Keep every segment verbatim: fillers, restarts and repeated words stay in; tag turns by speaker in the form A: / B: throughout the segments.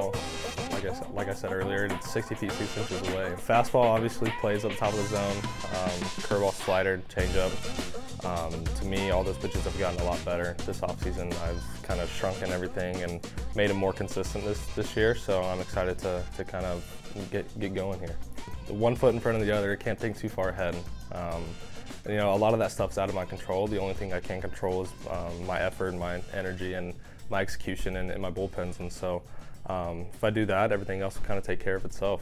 A: fastball, like I said, like I said earlier, it's sixty feet six inches away. Fastball obviously plays at the top of the zone. Um, curveball, slider, changeup. Um, to me, all those pitches have gotten a lot better this offseason. I've kind of shrunken everything and made them more consistent this, this year, so I'm excited to, to kind of get, get going here. The one foot in front of the other, can't think too far ahead. Um, and, you know, a lot of that stuff's out of my control. The only thing I can control is um, my effort, my energy, and my execution and, and my bullpens. And so um, if I do that, everything else will kind of take care of itself.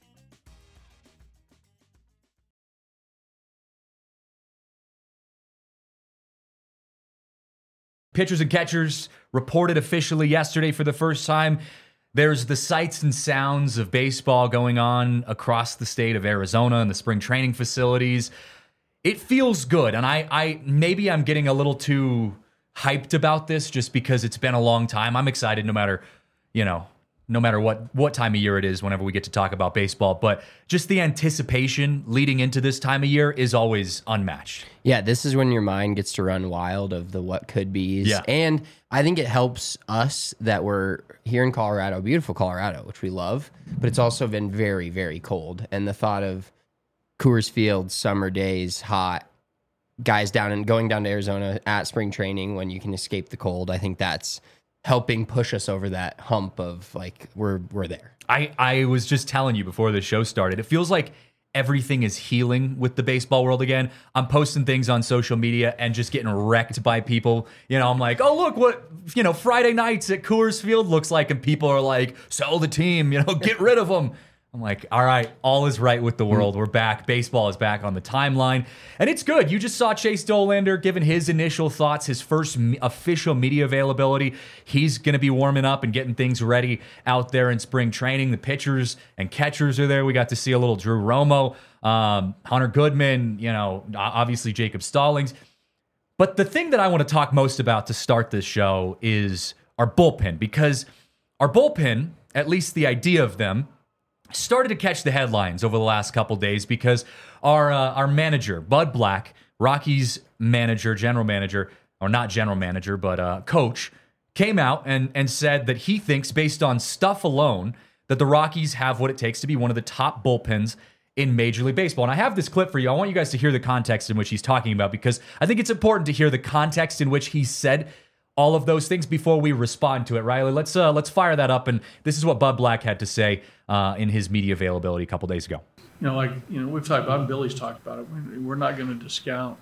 B: Pitchers and catchers reported officially yesterday for the first time. There's the sights and sounds of baseball going on across the state of Arizona and the spring training facilities. It feels good, and I, I maybe I'm getting a little too hyped about this just because it's been a long time. I'm excited no matter, you know, no matter what what time of year it is whenever we get to talk about baseball. But just the anticipation leading into this time of year is always unmatched.
C: Yeah, this is when your mind gets to run wild of the what could be's.
B: Yeah.
C: And I think it helps us that we're here in Colorado, beautiful Colorado, which we love, but it's also been very, very cold. And the thought of Coors Field, summer days, hot, guys down and going down to Arizona at spring training when you can escape the cold, I think that's helping push us over that hump of like, we're we're there.
B: I, I was just telling you before the show started, it feels like everything is healing with the baseball world again. I'm posting things on social media and just getting wrecked by people. You know, I'm like, oh, look what, you know, Friday nights at Coors Field looks like. And people are like, sell the team, you know, get rid of them. I'm like, all right, all is right with the world. We're back. Baseball is back on the timeline. And it's good. You just saw Chase Dollander giving his initial thoughts, his first me- official media availability. He's going to be warming up and getting things ready out there in spring training. The pitchers and catchers are there. We got to see a little Drew Romo, um, Hunter Goodman, you know, obviously Jacob Stallings. But the thing that I want to talk most about to start this show is our bullpen, because our bullpen, at least the idea of them, started to catch the headlines over the last couple days because our uh, our manager, Bud Black, Rockies manager, general manager, or not general manager, but uh, coach, came out and, and said that he thinks, based on stuff alone, that the Rockies have what it takes to be one of the top bullpens in Major League Baseball. And I have this clip for you. I want you guys to hear the context in which he's talking about, because I think it's important to hear the context in which he said all of those things before we respond to it. Riley, let's uh, let's fire that up. And this is what Bud Black had to say uh, in his media availability a couple days ago.
D: You know, like, you know, we've talked about it, Billy's talked about it. We're not going to discount,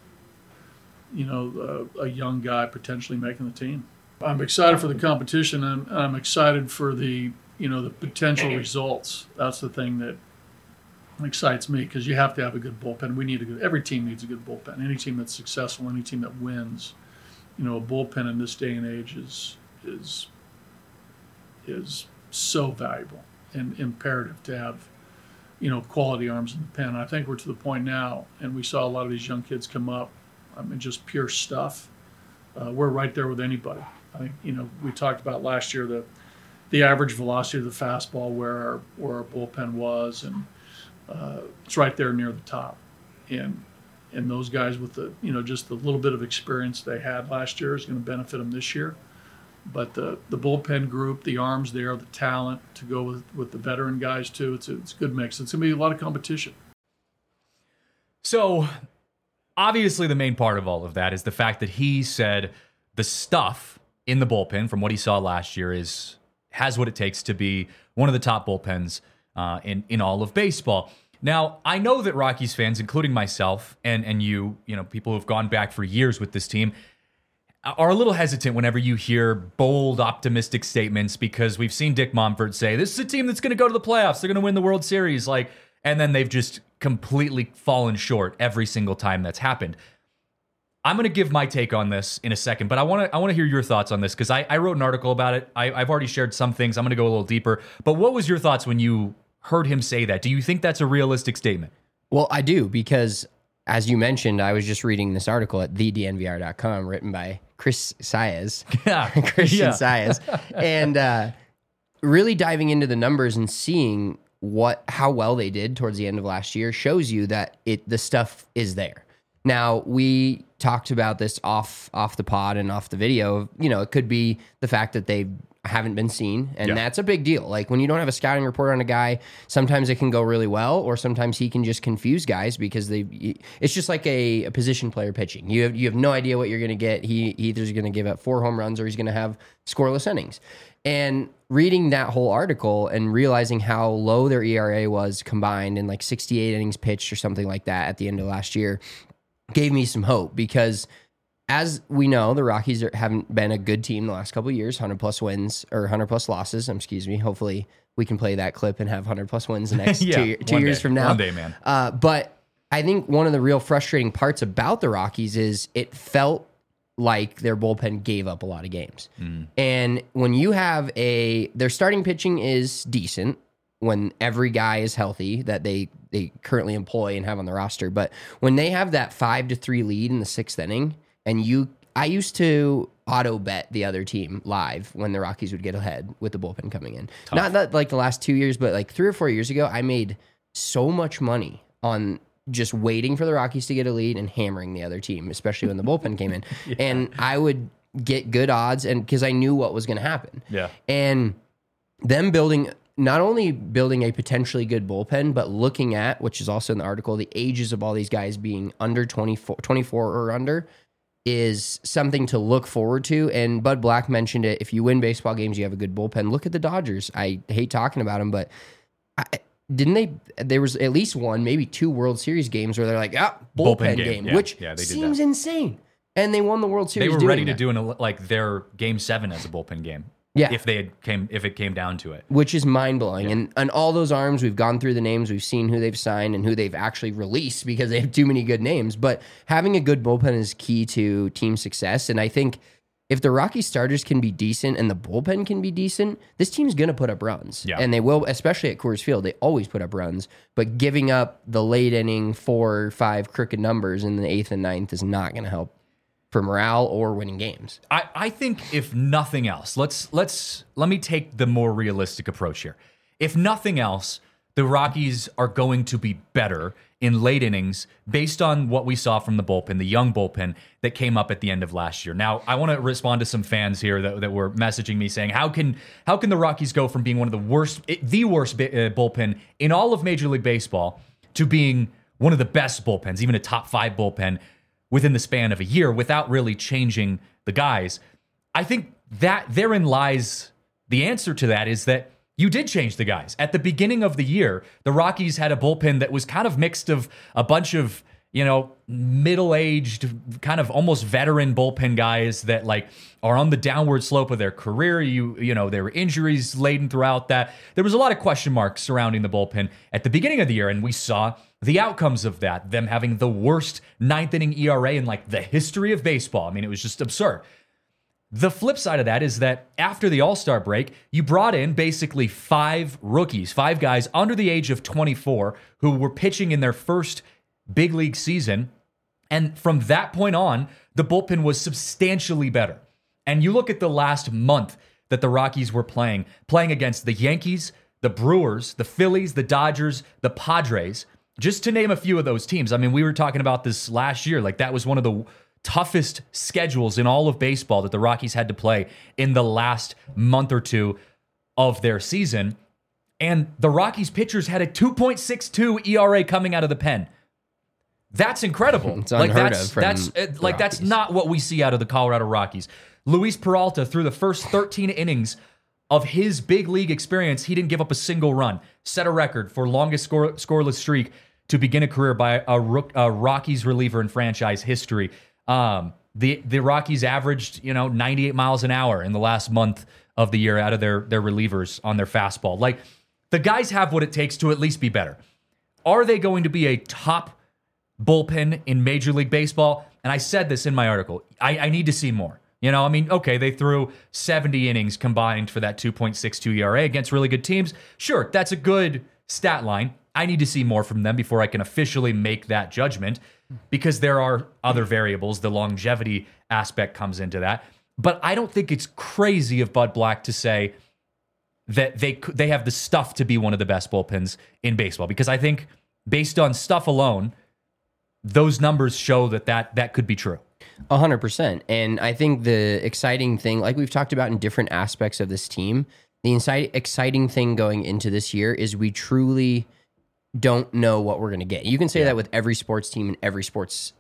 D: you know, a, a young guy potentially making the team. I'm excited for the competition, and I'm excited for the, you know, the potential results. That's the thing that excites me, because you have to have a good bullpen. We need a good, every team needs a good bullpen. Any team that's successful, any team that wins, you know, a bullpen in this day and age is is is so valuable and imperative to have, you know, quality arms in the pen. I think we're to the point now, and we saw a lot of these young kids come up, I mean, just pure stuff. Uh, we're right there with anybody. I think, you know, we talked about last year the the average velocity of the fastball, where our, where our bullpen was, and uh, it's right there near the top. And and those guys with the, you know, just the little bit of experience they had last year is going to benefit them this year. But the the bullpen group, the arms there, the talent to go with, with the veteran guys too, it's a, it's a good mix. It's going to be a lot of competition.
B: So obviously the main part of all of that is the fact that he said the stuff in the bullpen from what he saw last year is has what it takes to be one of the top bullpens uh, in, in all of baseball. Now, I know that Rockies fans, including myself and, and you, you know, people who have gone back for years with this team, are a little hesitant whenever you hear bold, optimistic statements, because we've seen Dick Monfort say, this is a team that's going to go to the playoffs. They're going to win the World Series. Like, and then they've just completely fallen short every single time that's happened. I'm going to give my take on this in a second, but I want to I want to hear your thoughts on this, because I, I wrote an article about it. I, I've already shared some things. I'm going to go a little deeper. But what was your thoughts when you heard him say that? Do you think that's a realistic statement?
C: Well, I do, because as you mentioned, I was just reading this article at the D N V R dot com written by Chris Saez,
B: yeah.
C: Christian
B: yeah.
C: Saez, and uh, really diving into the numbers and seeing what how well they did towards the end of last year shows you that it the stuff is there. Now, we talked about this off off the pod and off the video. You know, it could be the fact that they haven't been seen, and
B: Yeah.
C: that's a big deal. Like when you don't have a scouting report on a guy, sometimes it can go really well, or sometimes he can just confuse guys because they. It's just like a, a position player pitching. You have you have no idea what you're going to get. He, he either's going to give up four home runs or he's going to have scoreless innings. And reading that whole article and realizing how low their E R A was combined in like sixty-eight innings pitched or something like that at the end of last year gave me some hope because. As we know, the Rockies are, haven't been a good team the last couple of years, one hundred plus wins or one hundred plus losses. Um, excuse me. Hopefully we can play that clip and have one hundred plus wins the next
B: Yeah,
C: two, two
B: one
C: years
B: day.
C: from now.
B: One day, man.
C: Uh, but I think one of the real frustrating parts about the Rockies is it felt like their bullpen gave up a lot of games.
B: Mm.
C: And when you have a, their starting pitching is decent when every guy is healthy that they, they currently employ and have on the roster. But when they have that five to three lead in the sixth inning, and you, I used to auto bet the other team live when the Rockies would get ahead with the bullpen coming in.
B: Tough.
C: Not that like the last two years, but like three or four years ago, I made so much money on just waiting for the Rockies to get a lead and hammering the other team, especially when the bullpen came in. Yeah. And I would get good odds, and because I knew what was going to happen.
B: Yeah.
C: And them building, not only building a potentially good bullpen, but looking at, which is also in the article, the ages of all these guys being under twenty-four, twenty-four or under, is something to look forward to. And Bud Black mentioned it. If you win baseball games, you have a good bullpen. Look at the Dodgers. I hate talking about them, but I, didn't they? There was at least one, maybe two World Series games where they're like, ah, bullpen,
B: Bullpen game,
C: game,
B: yeah.
C: which
B: Yeah, they did
C: seems
B: that.
C: insane. And they won the World Series.
B: They were
C: doing
B: ready to
C: that.
B: do an, like their game seven as a bullpen game.
C: Yeah.
B: If they had came, if it came down to it.
C: Which is mind blowing. And and all those arms, we've gone through the names, we've seen who they've signed and who they've actually released because they have too many good names. But having a good bullpen is key to team success. And I think if the Rocky starters can be decent and the bullpen can be decent, this team's going to put up runs.
B: Yeah.
C: And they will, especially at Coors Field. They always put up runs. But giving up the late inning four or five crooked numbers in the eighth and ninth is not going to help for morale or winning games.
B: I, I think if nothing else, let's let's let me take the more realistic approach here. If nothing else, the Rockies are going to be better in late innings based on what we saw from the bullpen, the young bullpen that came up at the end of last year. Now, I want to respond to some fans here that, that were messaging me saying, how can how can the Rockies go from being one of the worst, the worst uh, bullpen in all of Major League Baseball to being one of the best bullpens, even a top five bullpen within the span of a year without really changing the guys? I think that therein lies the answer to that is that you did change the guys. At the beginning of the year, the Rockies had a bullpen that was kind of mixed of a bunch of, you know, middle-aged, kind of almost veteran bullpen guys that like are on the downward slope of their career. You, you know, there were injuries laden throughout that. There was a lot of question marks surrounding the bullpen at the beginning of the year, and we saw the outcomes of that, them having the worst ninth inning E R A in like the history of baseball. I mean, it was just absurd. The flip side of that is that after the All-Star break, you brought in basically five rookies, five guys under the age of twenty-four who were pitching in their first big league season. And from that point on, the bullpen was substantially better. And you look at the last month that the Rockies were playing, playing against the Yankees, the Brewers, the Phillies, the Dodgers, the Padres, just to name a few of those teams. I mean, we were talking about this last year. Like that was one of the toughest schedules in all of baseball that the Rockies had to play in the last month or two of their season. And the Rockies pitchers had a two point six two E R A coming out of the pen. That's incredible.
C: It's
B: like
C: unheard
B: that's
C: of from
B: that's uh, like that's
C: Rockies.
B: not what we see out of the Colorado Rockies. Luis Peralta, through the first thirteen innings of his big league experience, he didn't give up a single run. Set a record for longest score, scoreless streak to begin a career by a, rook, a Rockies reliever in franchise history. Um, the the Rockies averaged, you know, ninety-eight miles an hour in the last month of the year out of their their relievers on their fastball. Like the guys have what it takes to at least be better. Are they going to be a top bullpen in Major League Baseball? And I said this in my article. I, I need to see more. You know, I mean, okay, they threw seventy innings combined for that two point six two E R A against really good teams. Sure, that's a good stat line. I need to see more from them before I can officially make that judgment, because there are other variables. The longevity aspect comes into that. But I don't think it's crazy of Bud Black to say that they they have the stuff to be one of the best bullpens in baseball, because I think based on stuff alone, those numbers show that that, that could be true.
C: A hundred percent. And I think the exciting thing, like we've talked about in different aspects of this team, the inside, exciting thing going into this year is we truly don't know what we're going to get. You can say
B: Yeah.
C: that with every sports team and every sports,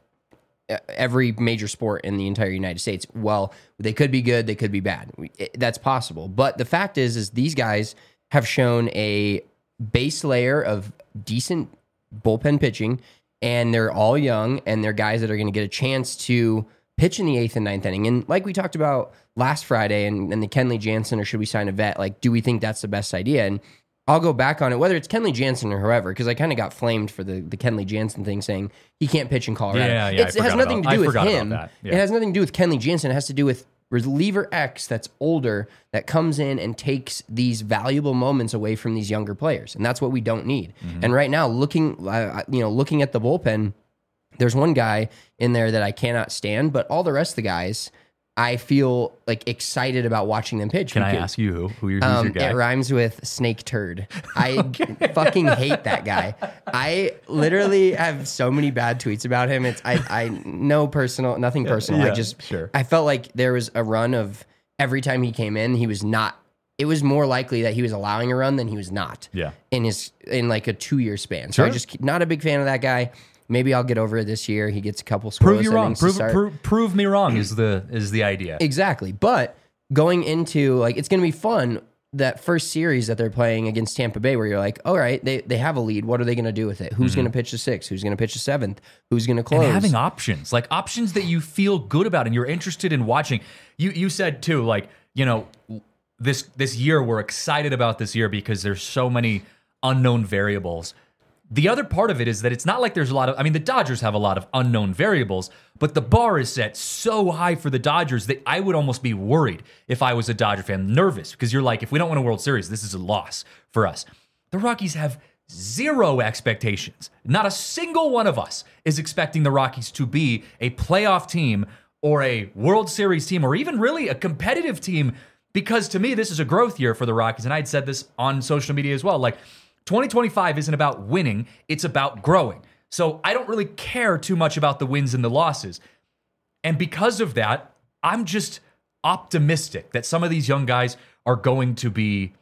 C: every major sport in the entire United States. Well, they could be good, they could be bad. We- it- That's possible. But the fact is, is these guys have shown a base layer of decent bullpen pitching, and they're all young, and they're guys that are going to get a chance to pitch in the eighth and ninth inning. And like we talked about last Friday, and, and the Kenley Jansen, or should we sign a vet? Like, do we think that's the best idea? And I'll go back on it, whether it's Kenley Jansen or whoever, because I kind of got flamed for the, the Kenley Jansen thing, saying he can't pitch in Colorado.
B: Yeah, yeah,
C: It's,
B: I
C: it has
B: forgot
C: nothing
B: about-
C: to do
B: I
C: with
B: forgot about
C: him.
B: that. Yeah.
C: It has nothing to do with Kenley Jansen. It has to do with reliever X that's older, that comes in and takes these valuable moments away from these younger players, and that's what we don't need.
B: Mm-hmm.
C: And right now, looking, uh, you know, looking at the bullpen, there's one guy in there that I cannot stand, but all the rest of the guys, I feel like excited about watching them pitch.
B: Can I
C: because-
B: ask you who? Who your, who's
C: um,
B: your guy?
C: It rhymes with snake turd. I fucking hate that guy. I literally have so many bad tweets about him. It's I I no personal, nothing personal. I
B: Yeah,
C: just
B: sure.
C: I felt like there was a run of every time he came in, he was not. It was more likely that he was allowing a run than he was not.
B: Yeah.
C: In his in like a two year span. So I
B: Sure.
C: just not a big fan of that guy. Maybe I'll get over it this year. He gets a couple scoreless
B: Prove you wrong.
C: innings to
B: Prove,
C: start.
B: prove, prove me wrong is the is the idea.
C: Exactly. But going into like it's going to be fun that first series that they're playing against Tampa Bay, where you're like, all right, they they have a lead. What are they going to do with it? Who's going to pitch the sixth? Who's going to pitch the seventh? Who's going to close?
B: And having options, like options that you feel good about and you're interested in watching. You you said too, like, you know, this this year we're excited about this year because there's so many unknown variables. The other part of it is that it's not like there's a lot of, I mean, the Dodgers have a lot of unknown variables, but the bar is set so high for the Dodgers that I would almost be worried if I was a Dodger fan, nervous, because you're like, if we don't win a World Series, this is a loss for us. The Rockies have zero expectations. Not a single one of us is expecting the Rockies to be a playoff team or a World Series team or even really a competitive team, because to me, this is a growth year for the Rockies. And I'd said this on social media as well. Like, twenty twenty-five isn't about winning, it's about growing. So I don't really care too much about the wins and the losses. And because of that, I'm just optimistic that some of these young guys are going to be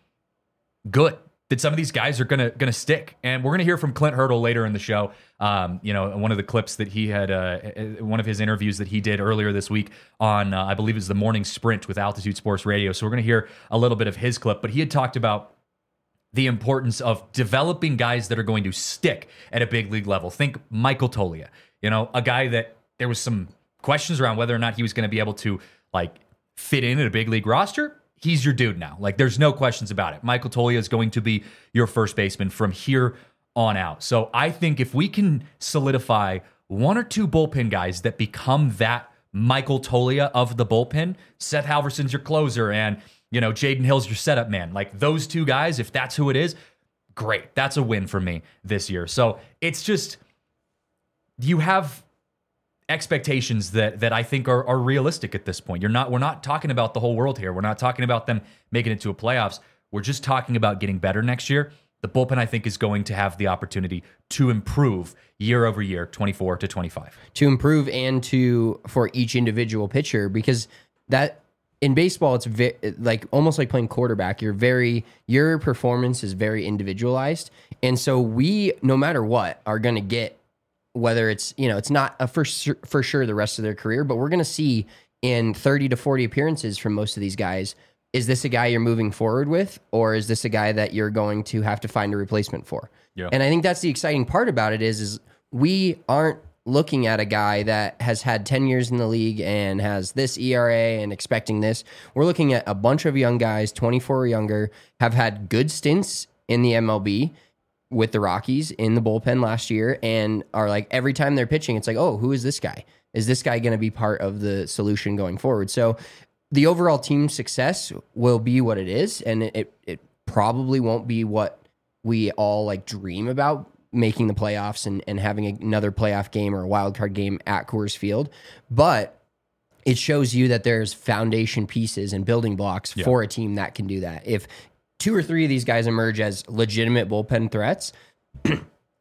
B: good, that some of these guys are gonna gonna stick. And we're gonna hear from Clint Hurdle later in the show. Um, you know, one of the clips that he had, uh, one of his interviews that he did earlier this week on, uh, I believe, is the Morning Sprint with Altitude Sports Radio. So we're gonna hear a little bit of his clip. But he had talked about the importance of developing guys that are going to stick at a big league level. Think Michael Toglia, you know, a guy that there was some questions around whether or not he was going to be able to like fit in at a big league roster. He's your dude now. Like, there's no questions about it. Michael Toglia is going to be your first baseman from here on out. So I think if we can solidify one or two bullpen guys that become that Michael Toglia of the bullpen, Seth Halverson's your closer, and you know, Jaden Hill's your setup man. Like, those two guys, if that's who it is, great. That's a win for me this year. So it's just, you have expectations that that I think are, are realistic at this point. You're not, we're not talking about the whole world here. We're not talking about them making it to a playoffs. We're just talking about getting better next year. The bullpen, I think, is going to have the opportunity to improve year over year, twenty-four to twenty-five.
C: To improve and to for each individual pitcher, because that in baseball, it's ve- like almost like playing quarterback. You're very, your performance is very individualized. And so we, no matter what, are going to get, whether it's, you know, it's not a for, sur- for sure the rest of their career, but we're going to see in thirty to forty appearances from most of these guys, is this a guy you're moving forward with, or is this a guy that you're going to have to find a replacement for?
B: Yeah.
C: And I think that's the exciting part about it is, is we aren't looking at a guy that has had ten years in the league and has this E R A and expecting this. We're looking at a bunch of young guys, twenty-four or younger, have had good stints in the M L B with the Rockies in the bullpen last year, and are like, every time they're pitching, it's like, oh, who is this guy? Is this guy going to be part of the solution going forward? So the overall team success will be what it is, and it, it, it probably won't be what we all like dream about, making the playoffs and, and having another playoff game or a wild card game at Coors Field. But it shows you that there's foundation pieces and building blocks
B: Yeah.
C: for a team that can do that. If two or three of these guys emerge as legitimate bullpen threats,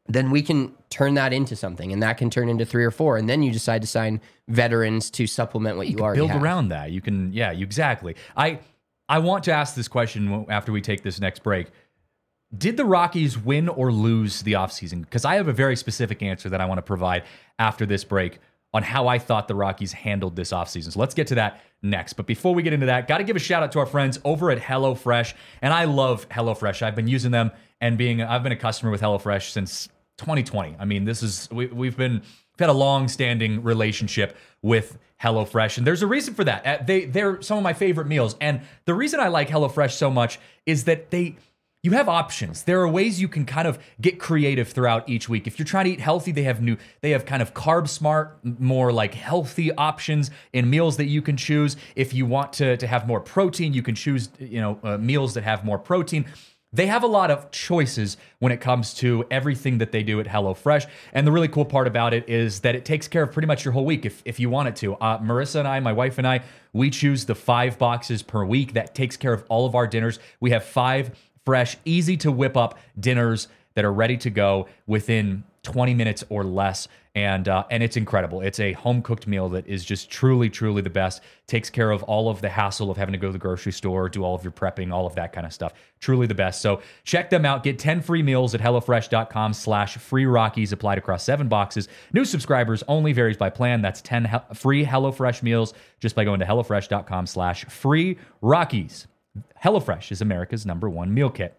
C: then we can turn that into something, and that can turn into three or four. And then you decide to sign veterans to supplement what you,
B: you
C: already
B: build
C: have.
B: around that. You can, yeah, you, exactly. I, I want to ask this question after we take this next break. Did the Rockies win or lose the offseason? Because I have a very specific answer that I want to provide after this break on how I thought the Rockies handled this offseason. So let's get to that next. But before we get into that, got to give a shout out to our friends over at HelloFresh. And I love HelloFresh. I've been using them and being, I've been a customer with HelloFresh since twenty twenty. I mean, this is, we, we've been, we've had a long-standing relationship with HelloFresh, and there's a reason for that. Uh, They, they're some of my favorite meals. And the reason I like HelloFresh so much is that they, you have options. There are ways you can kind of get creative throughout each week. If you're trying to eat healthy, they have new, they have kind of carb smart, more like healthy options in meals that you can choose. If you want to, to have more protein, you can choose, you know, uh, meals that have more protein. They have a lot of choices when it comes to everything that they do at HelloFresh. And the really cool part about it is that it takes care of pretty much your whole week if, if you want it to. Uh, Marissa and I, my wife and I, we choose the five boxes per week. That takes care of all of our dinners. We have five fresh, easy to whip up dinners that are ready to go within twenty minutes or less. And uh, and it's incredible. It's a home cooked meal that is just truly, truly the best. Takes care of all of the hassle of having to go to the grocery store, do all of your prepping, all of that kind of stuff. Truly the best. So check them out. Get ten free meals at HelloFresh.com slash free Rockies applied across seven boxes. New subscribers only, varies by plan. That's ten he- free HelloFresh meals just by going to HelloFresh.com slash free Rockies. HelloFresh is America's number one meal kit.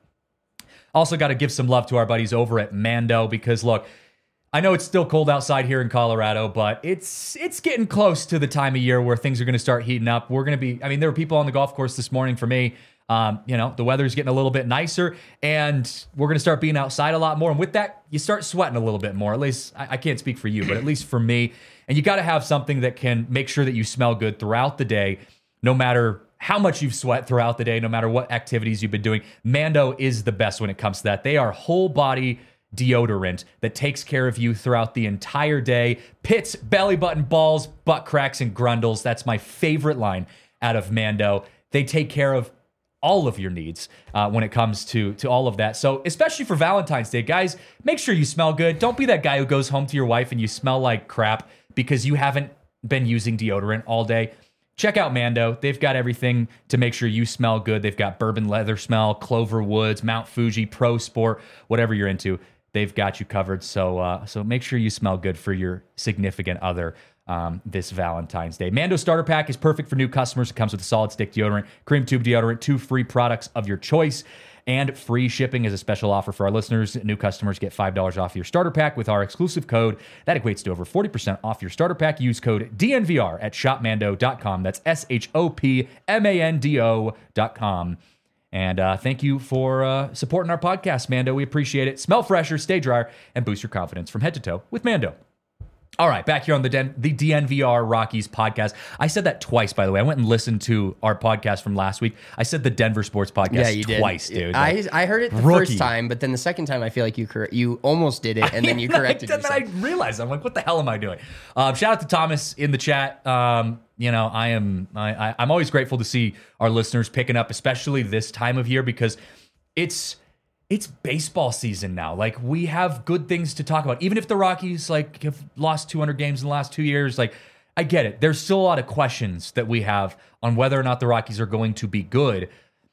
B: Also got to give some love to our buddies over at Mando because, look, I know it's still cold outside here in Colorado, but it's it's getting close to the time of year where things are going to start heating up. We're going to be, I mean, there were people on the golf course this morning for me. Um, you know, the weather's getting a little bit nicer, and we're going to start being outside a lot more. And with that, you start sweating a little bit more. At least, I, I can't speak for you, but at least for me. And you got to have something that can make sure that you smell good throughout the day, no matter how much you've sweat throughout the day, no matter what activities you've been doing. Mando is the best when it comes to that. They are whole body deodorant that takes care of you throughout the entire day. Pits, belly button, balls, butt cracks, and grundles. That's my favorite line out of Mando. They take care of all of your needs uh, when it comes to, to all of that. So especially for Valentine's Day, guys, make sure you smell good. Don't be that guy who goes home to your wife and you smell like crap because you haven't been using deodorant all day. Check out Mando. They've got everything to make sure you smell good. They've got bourbon leather smell, Clover Woods, Mount Fuji, Pro Sport, whatever you're into. They've got you covered. So uh, so make sure you smell good for your significant other um, this Valentine's Day. Mando Starter Pack is perfect for new customers. It comes with a solid stick deodorant, cream tube deodorant, two free products of your choice, and free shipping as a special offer for our listeners. New customers get five dollars off your starter pack with our exclusive code. That equates to over forty percent off your starter pack. Use code D N V R at shop mando dot com. That's S H O P M A N D O dot com. And uh, thank you for uh, supporting our podcast, Mando. We appreciate it. Smell fresher, stay drier, and boost your confidence from head to toe with Mando. All right, back here on the Den- the D N V R Rockies podcast. I said that twice, by the way. I went and listened to our podcast from last week. I said the Denver Sports Podcast
C: Yeah, you
B: twice,
C: did.
B: dude.
C: I,
B: Like,
C: I heard it the
B: rookie.
C: first time, but then the second time, I feel like you cor- you almost did it, and then you corrected
B: and then
C: yourself.
B: I realized, I'm like, what the hell am I doing? Um, shout out to Thomas in the chat. Um, you know, I am I, I, I'm always grateful to see our listeners picking up, especially this time of year, because it's it's baseball season now. Like, we have good things to talk about. Even if the Rockies like have lost two hundred games in the last two years, like, I get it. There's still a lot of questions that we have on whether or not the Rockies are going to be good.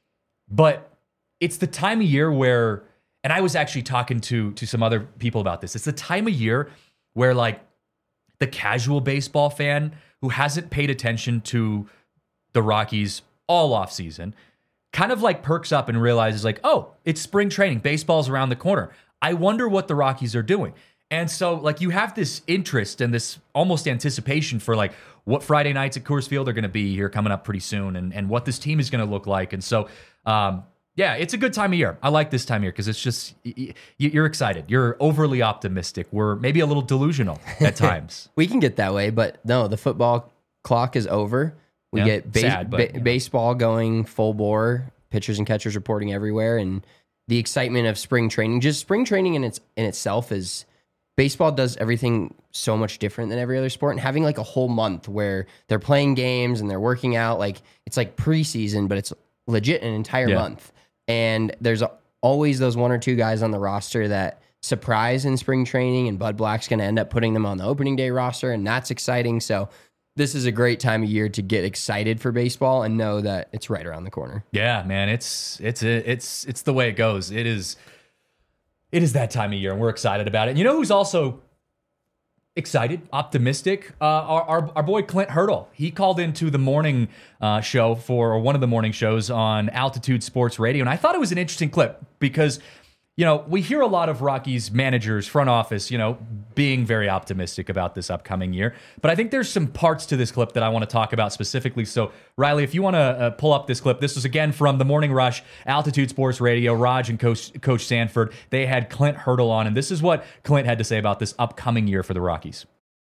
B: But it's the time of year where, and I was actually talking to to some other people about this. It's the time of year where, like, the casual baseball fan who hasn't paid attention to the Rockies all offseason kind of like perks up and realizes, like, oh, it's spring training. Baseball's around the corner. I wonder what the Rockies are doing. And so, like, you have this interest and this almost anticipation for, like, what Friday nights at Coors Field are going to be here coming up pretty soon, and, and what this team is going to look like. And so, um, yeah, it's a good time of year. I like this time of year because it's just, y- y- you're excited. You're overly optimistic. We're maybe a little delusional at times.
C: We can get that way, but no, the football clock is over. We
B: Yeah,
C: get base,
B: sad, but,
C: ba-
B: you know.
C: baseball going full bore, pitchers and catchers reporting everywhere, and the excitement of spring training. Just spring training in its in itself is, baseball does everything so much different than every other sport, and having like a whole month where they're playing games and they're working out, like it's like preseason, but it's legit an entire
B: Yeah.
C: month. And there's always those one or two guys on the roster that surprise in spring training, and Bud Black's going to end up putting them on the opening day roster, and that's exciting. So this is a great time of year to get excited for baseball and know that it's right around the corner.
B: Yeah, man, it's it's it's it's the way it goes. It is it is that time of year, and we're excited about it. And you know who's also excited, optimistic? Uh, our, our our boy Clint Hurdle. He called into the morning uh, show for or one of the morning shows on Altitude Sports Radio, and I thought it was an interesting clip because, you know, we hear a lot of Rockies managers, front office, you know, being very optimistic about this upcoming year. But I think there's some parts to this clip that I want to talk about specifically. So, Riley, if you want to uh, pull up this clip, this was again from the Morning Rush, Altitude Sports Radio, Raj and Coach, Coach Sanford. They had Clint Hurdle on, and this is what Clint had to say about this upcoming year for the Rockies.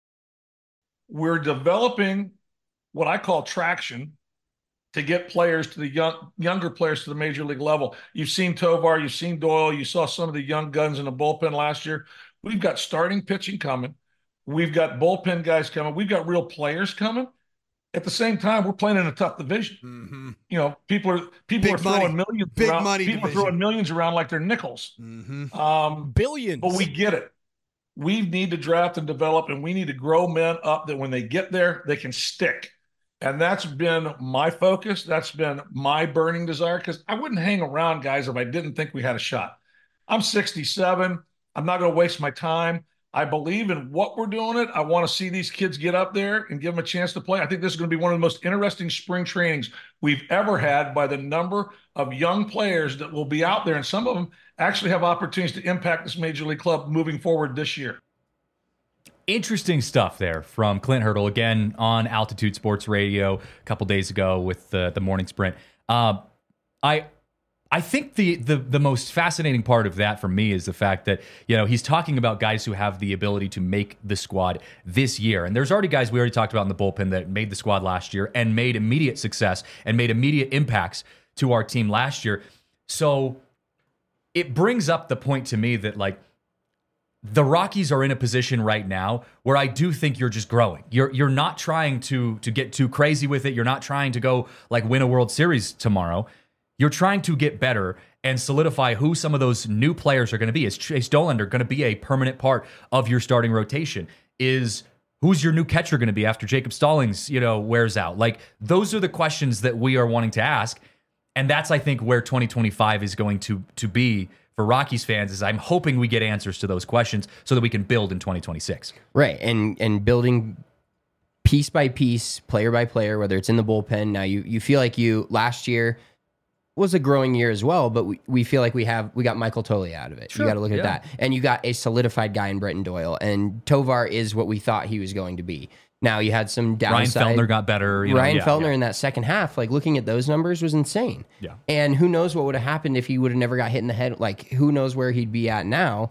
E: We're developing what I call traction to get players to the young, younger players to the major league level. You've seen Tovar, you've seen Doyle, you saw some of the young guns in the bullpen last year. We've got starting pitching coming. We've got bullpen guys coming. We've got real players coming. At the same time, we're playing in a tough division.
F: Mm-hmm.
E: You know, people are people
F: Big
E: are throwing
F: money.
E: millions
F: Big
E: around.
F: money
E: People
F: division.
E: are throwing millions around like they're nickels.
F: Mm-hmm.
E: Um,
F: Billions.
E: but we get it. We need to draft and develop, and we need to grow men up that when they get there, they can stick. And that's been my focus. That's been my burning desire, because I wouldn't hang around guys if I didn't think we had a shot. I'm sixty-seven. I'm not going to waste my time. I believe in what we're doing it. I want to see these kids get up there and give them a chance to play. I think this is going to be one of the most interesting spring trainings we've ever had by the number of young players that will be out there. And some of them actually have opportunities to impact this major league club moving forward this year.
B: Interesting stuff there from Clint Hurdle, again on Altitude Sports Radio a couple days ago with the, the morning sprint. Uh, I I think the, the the most fascinating part of that for me is the fact that, you know, he's talking about guys who have the ability to make the squad this year. And there's already guys we already talked about in the bullpen that made the squad last year and made immediate success and made immediate impacts to our team last year. So it brings up the point to me that, like, the Rockies are in a position right now where I do think you're just growing. You're you're not trying to to get too crazy with it. You're not trying to go like win a World Series tomorrow. You're trying to get better and solidify who some of those new players are going to be. Is Chase Dollander going to be a permanent part of your starting rotation? Is who's your new catcher going to be after Jacob Stallings, you know, wears out? Like, those are the questions that we are wanting to ask. And that's, I think, where twenty twenty-five is going to to be for Rockies fans, is I'm hoping we get answers to those questions so that we can build in twenty twenty-six.
C: Right, and and building piece by piece, player by player, whether it's in the bullpen. Now you you feel like you last year was a growing year as well, but we, we feel like we have we got Michael Toley out of it.
B: Sure,
C: you got to look at
B: yeah.
C: that, and you got a solidified guy in Bretton Doyle, and Tovar is what we thought he was going to be. Now you had some downside.
B: Ryan Feltner got better. You know,
C: Ryan
B: yeah,
C: Feltner
B: yeah.
C: in that second half, like looking at those numbers was insane.
B: Yeah.
C: And who knows what would have happened if he would have never got hit in the head? Like, who knows where he'd be at now?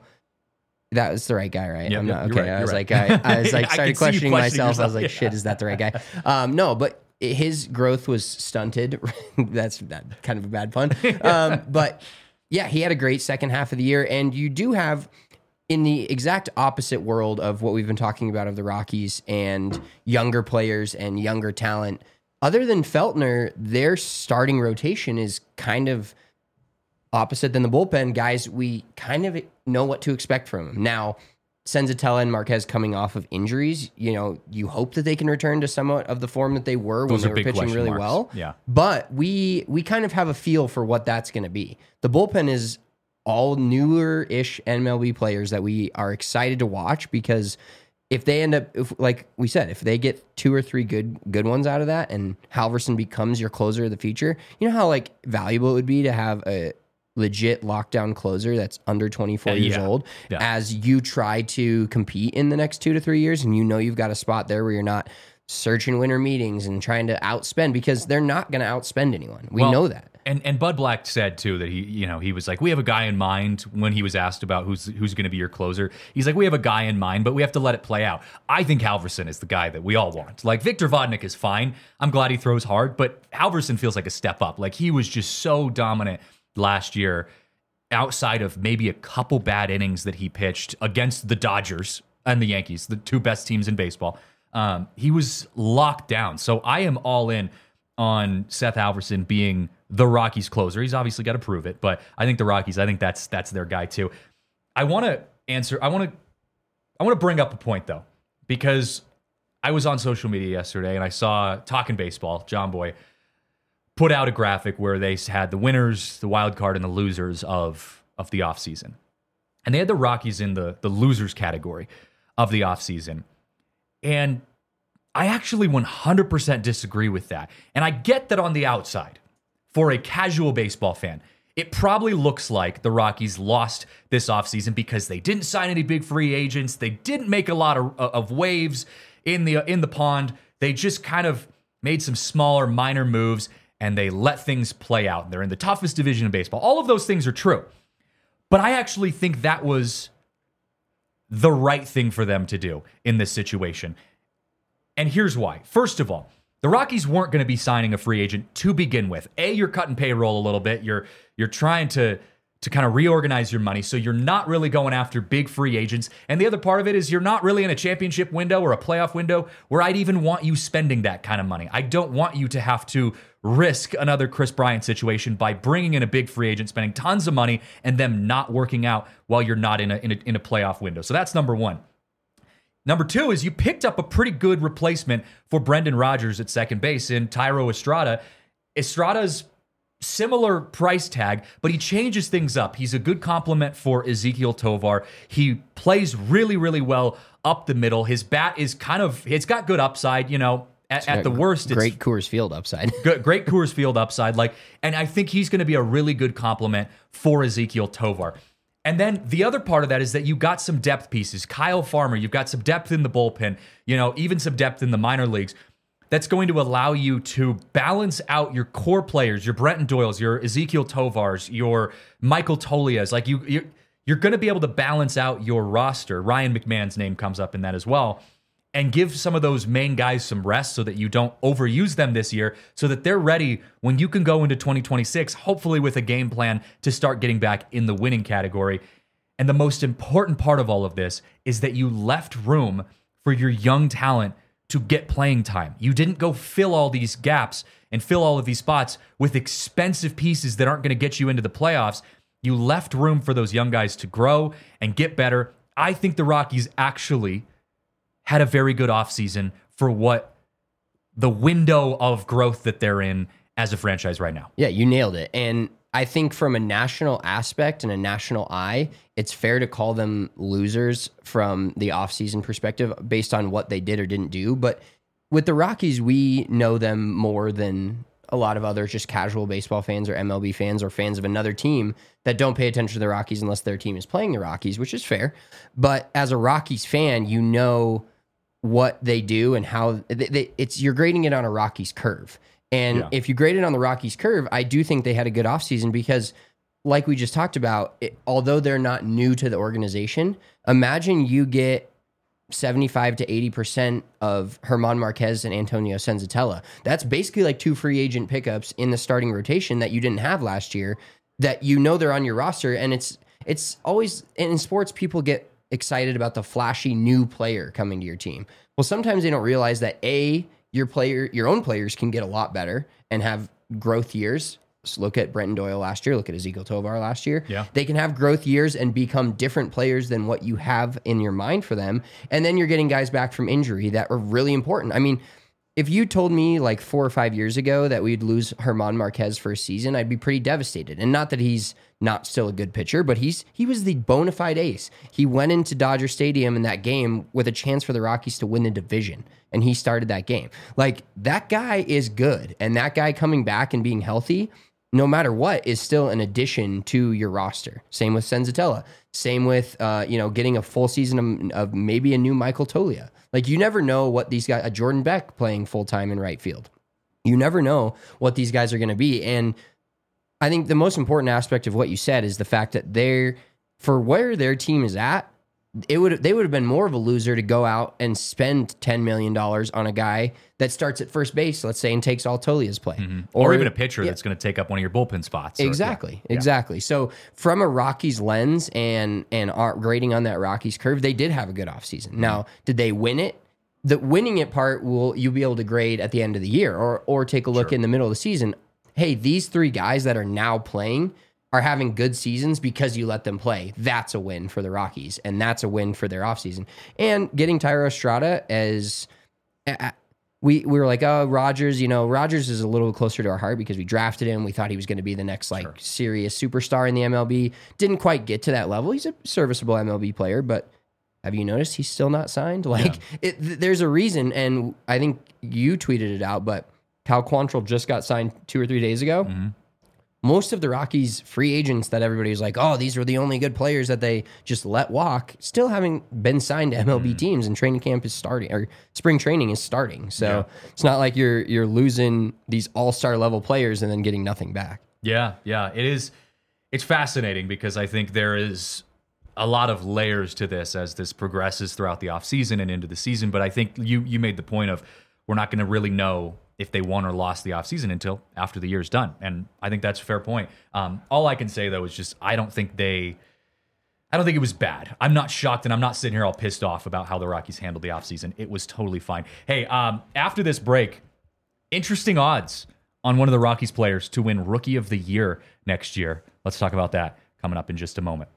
C: That was the right guy, right?
B: Yep,
C: I'm
B: yep,
C: not
B: you're
C: okay.
B: right,
C: I was
B: you're
C: like,
B: right.
C: I, I was like,
B: I
C: started
B: can see you
C: questioning
B: questioning
C: myself. I was
B: yourself,
C: like,
B: yeah.
C: shit, is that the right guy? Um, no, but his growth was stunted. That's that kind of a bad pun. Um, but yeah, he had a great second half of the year, and you do have, in the exact opposite world of what we've been talking about of the Rockies and younger players and younger talent, other than Feltner, their starting rotation is kind of opposite than the bullpen. Guys, we kind of know what to expect from them. Now, Senzatella and Marquez coming off of injuries, you know, you hope that they can return to somewhat of the form that they were
B: Those
C: when they
B: are
C: were
B: big
C: pitching
B: question
C: really
B: marks.
C: well.
B: Yeah.
C: But we we kind of have a feel for what that's going to be. The bullpen is all newer-ish N M L B players that we are excited to watch, because if they end up, if, like we said, if they get two or three good good ones out of that, and Halverson becomes your closer of the future, you know how like valuable it would be to have a legit lockdown closer that's under twenty-four
B: Uh,
C: years
B: yeah.
C: old
B: Yeah.
C: as you try to compete in the next two to three years, and you know you've got a spot there where you're not searching winter meetings and trying to outspend, because they're not going to outspend anyone. We
B: Well,
C: know that.
B: And and Bud Black said too that he, you know, he was like, we have a guy in mind when he was asked about who's who's going to be your closer. He's like, we have a guy in mind, but we have to let it play out. I think Halverson is the guy that we all want. Like, Victor Vodnik is fine. I'm glad he throws hard, but Halverson feels like a step up. Like, he was just so dominant last year, outside of maybe a couple bad innings that he pitched against the Dodgers and the Yankees, the two best teams in baseball. Um, he was locked down. So I am all in on Seth Halverson being the Rockies closer. He's obviously got to prove it, but I think the Rockies, I think that's that's their guy too. I want to answer. I want to. I want to bring up a point though, because I was on social media yesterday and I saw Talking Baseball, John Boy, put out a graphic where they had the winners, the wild card, and the losers of of the offseason. And they had the Rockies in the the losers category of the offseason. And I actually one hundred percent disagree with that. And I get that on the outside, for a casual baseball fan, it probably looks like the Rockies lost this offseason because they didn't sign any big free agents. They didn't make a lot of, of waves in the in the pond. They just kind of made some smaller, minor moves, and they let things play out. They're in the toughest division in baseball. All of those things are true. But I actually think that was the right thing for them to do in this situation. And here's why. First of all, the Rockies weren't going to be signing a free agent to begin with. A, you're cutting payroll a little bit. You're you're trying to to kind of reorganize your money, so you're not really going after big free agents. And the other part of it is you're not really in a championship window or a playoff window where I'd even want you spending that kind of money. I don't want you to have to risk another Chris Bryant situation by bringing in a big free agent, spending tons of money, and them not working out while you're not in a in a, in a playoff window. So that's number one. Number two is you picked up a pretty good replacement for Brendan Rodgers at second base in Thairo Estrada. Estrada's similar price tag, but he changes things up. He's a good complement for Ezequiel Tovar. He plays really, really well up the middle. His bat is kind of, it's got good upside, you know. At, at the worst,
C: great
B: it's
C: Coors Field upside.
B: good, great Coors Field upside. Like, and I think he's going to be a really good complement for Ezequiel Tovar. And then the other part of that is that you got some depth pieces. Kyle Farmer, you've got some depth in the bullpen, you know, even some depth in the minor leagues. That's going to allow you to balance out your core players, your Brenton Doyles, your Ezequiel Tovars, your Michael Tolias. Like you, you're, you're going to be able to balance out your roster. Ryan McMahon's name comes up in that as well. And give some of those main guys some rest so that you don't overuse them this year, so that they're ready when you can go into twenty twenty-six, hopefully with a game plan to start getting back in the winning category. And the most important part of all of this is that you left room for your young talent to get playing time. You didn't go fill all these gaps and fill all of these spots with expensive pieces that aren't going to get you into the playoffs. You left room for those young guys to grow and get better. I think the Rockies actually had a very good offseason for what the window of growth that they're in as a franchise right now.
C: Yeah, you nailed it. And I think from a national aspect and a national eye, it's fair to call them losers from the offseason perspective based on what they did or didn't do. But with the Rockies, we know them more than a lot of other just casual baseball fans or M L B fans or fans of another team that don't pay attention to the Rockies unless their team is playing the Rockies, which is fair. But as a Rockies fan, you know what they do and how they, they, it's you're grading it on a Rockies curve. And yeah. if you grade it on the Rockies curve, I do think they had a good offseason because, like we just talked about, it, although they're not new to the organization, imagine you get seventy-five to eighty percent of German Marquez and Antonio Senzatella. That's basically like two free agent pickups in the starting rotation that you didn't have last year, that you know they're on your roster. And it's it's always, in sports, people get excited about the flashy new player coming to your team. Well, sometimes they don't realize that A, your player, your own players can get a lot better and have growth years. So look at Brenton Doyle last year. Look at Ezequiel Tovar last year.
B: Yeah.
C: They can have growth years and become different players than what you have in your mind for them. And then you're getting guys back from injury that are really important. I mean, if you told me like four or five years ago that we'd lose German Marquez for a season, I'd be pretty devastated. And not that he's not still a good pitcher, but he's he was the bona fide ace. He went into Dodger Stadium in that game with a chance for the Rockies to win the division, and he started that game. Like, that guy is good, and that guy coming back and being healthy, no matter what, is still an addition to your roster. Same with Senzatella. Same with uh, you know, getting a full season of, of maybe a new Michael Toglia. Like, you never know what these guys, a Jordan Beck playing full-time in right field. You never know what these guys are going to be. And I think the most important aspect of what you said is the fact that they're, for where their team is at, it would they would have been more of a loser to go out and spend ten million dollars on a guy that starts at first base, let's say, and takes all Tolia's play.
B: Mm-hmm. Or, or even a pitcher yeah. that's going to take up one of your bullpen spots.
C: Exactly,
B: or, yeah.
C: exactly. Yeah. So from a Rockies lens and and our grading on that Rockies curve, they did have a good offseason. Mm-hmm. Now, did they win it? The winning it part will you'll be able to grade at the end of the year or or take a look
B: sure.
C: in the middle of the season. Hey, these three guys that are now playing, are having good seasons because you let them play. That's a win for the Rockies, and that's a win for their offseason. And getting Thairo Estrada as uh, we we were like, oh, Rogers, you know, Rogers is a little closer to our heart because we drafted him. We thought he was going to be the next like
B: Sure.
C: serious superstar in the M L B. Didn't quite get to that level. He's a serviceable M L B player, but have you noticed he's still not signed? Like,
B: Yeah.
C: it, th- there's a reason, and I think you tweeted it out, but Cal Quantrill just got signed two or three days ago.
B: Mm-hmm.
C: Most of the Rockies free agents that everybody was like, oh, these were the only good players that they just let walk, still haven't been signed to M L B
B: Mm.
C: teams, and training camp is starting, or spring training is starting. So
B: Yeah.
C: it's not like you're you're losing these all-star level players and then getting nothing back.
B: Yeah, yeah, it is. It's fascinating because I think there is a lot of layers to this as this progresses throughout the offseason and into the season. But I think you you made the point of we're not going to really know if they won or lost the offseason until after the year's done. And I think that's a fair point. Um, all I can say, though, is just I don't think they I don't think it was bad. I'm not shocked, and I'm not sitting here all pissed off about how the Rockies handled the offseason. It was totally fine. Hey, um, after this break, interesting odds on one of the Rockies players to win Rookie of the Year next year. Let's talk about that coming up in just a moment.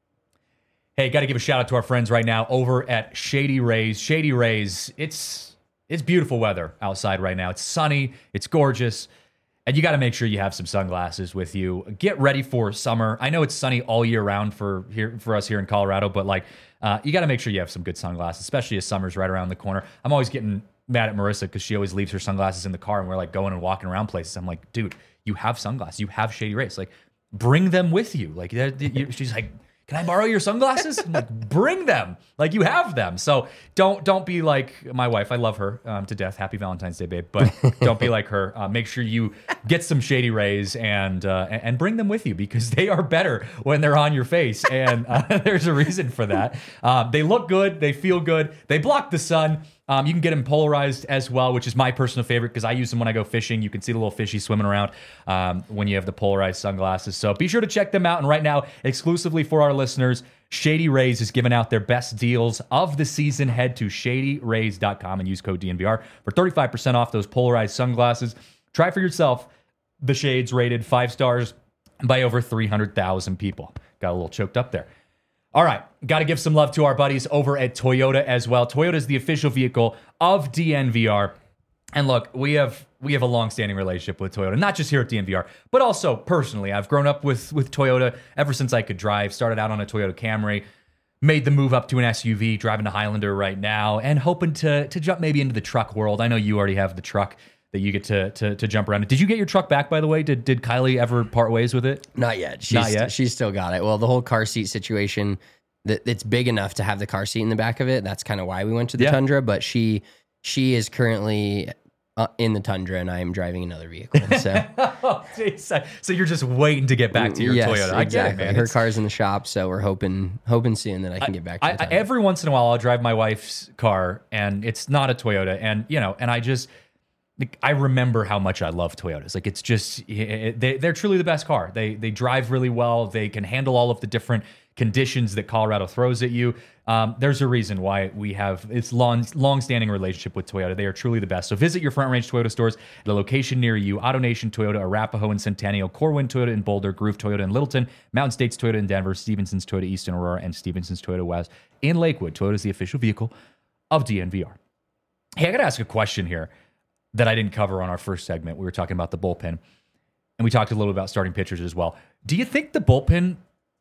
B: Hey, got to give a shout out to our friends right now over at Shady Rays. Shady Rays, it's it's beautiful weather outside right now. It's sunny, it's gorgeous, and you got to make sure you have some sunglasses with you. Get ready for summer. I know it's sunny all year round for here for us here in Colorado, but like uh, you got to make sure you have some good sunglasses, especially as summer's right around the corner. I'm always getting mad at Marissa because she always leaves her sunglasses in the car, and we're like going and walking around places. I'm like, dude, you have sunglasses, you have Shady Rays, like bring them with you. Like she's like, can I borrow your sunglasses? I'm like, bring them. Like you have them. So don't don't be like my wife. I love her um, to death. Happy Valentine's Day, babe. But don't be like her. Uh, make sure you get some Shady Rays and uh, and bring them with you because they are better when they're on your face. And uh, there's a reason for that. Um, they look good. They feel good. They block the sun. Um, you can get them polarized as well, which is my personal favorite because I use them when I go fishing. You can see the little fishy swimming around um, when you have the polarized sunglasses. So be sure to check them out. And right now, exclusively for our listeners, Shady Rays is giving out their best deals of the season. Head to shady rays dot com and use code D N V R for thirty-five percent off those polarized sunglasses. Try for yourself. The shades rated five stars by over three hundred thousand people. Got a little choked up there. All right, got to give some love to our buddies over at Toyota as well. Toyota is the official vehicle of D N V R. And look, we have we have a long-standing relationship with Toyota, not just here at D N V R, but also personally. I've grown up with, with Toyota ever since I could drive. Started out on a Toyota Camry, made the move up to an S U V, driving a Highlander right now, and hoping to, to jump maybe into the truck world. I know you already have the truck that you get to, to to jump around in. Did you get your truck back, by the way? Did did Kylie ever part ways with it?
C: Not yet. She's,
B: Not yet?
C: She's still got it. Well, the whole car seat situation, that it's big enough to have the car seat in the back of it. That's kind of why we went to the
B: Yeah.
C: Tundra. But she she is currently uh, in the Tundra, and I am driving another vehicle. So
B: Oh, geez. So you're just waiting to get back to your
C: yes,
B: Toyota. I
C: exactly.
B: get it, man.
C: Her
B: It's-
C: car's in the shop, so we're hoping hoping soon that I can get back to
B: I,
C: the
B: I,
C: Tundra.
B: every once in a while, I'll drive my wife's car, and it's not a Toyota, and you know, and I just, like, I remember how much I love Toyotas. Like, it's just it, they, they're truly the best car. They they drive really well. They can handle all of the different conditions that Colorado throws at you. Um, there's a reason why we have it's long long-standing relationship with Toyota. They are truly the best. So visit your Front Range Toyota stores at a location near you. AutoNation Toyota, Arapahoe and Centennial, Corwin Toyota in Boulder, Groove Toyota in Littleton, Mountain States Toyota in Denver, Stevenson's Toyota East in Aurora, and Stevenson's Toyota West in Lakewood. Toyota is the official vehicle of D N V R. Hey, I got to ask a question here that I didn't cover on our first segment. We were talking about the bullpen, and we talked a little about starting pitchers as well. Do you think the bullpen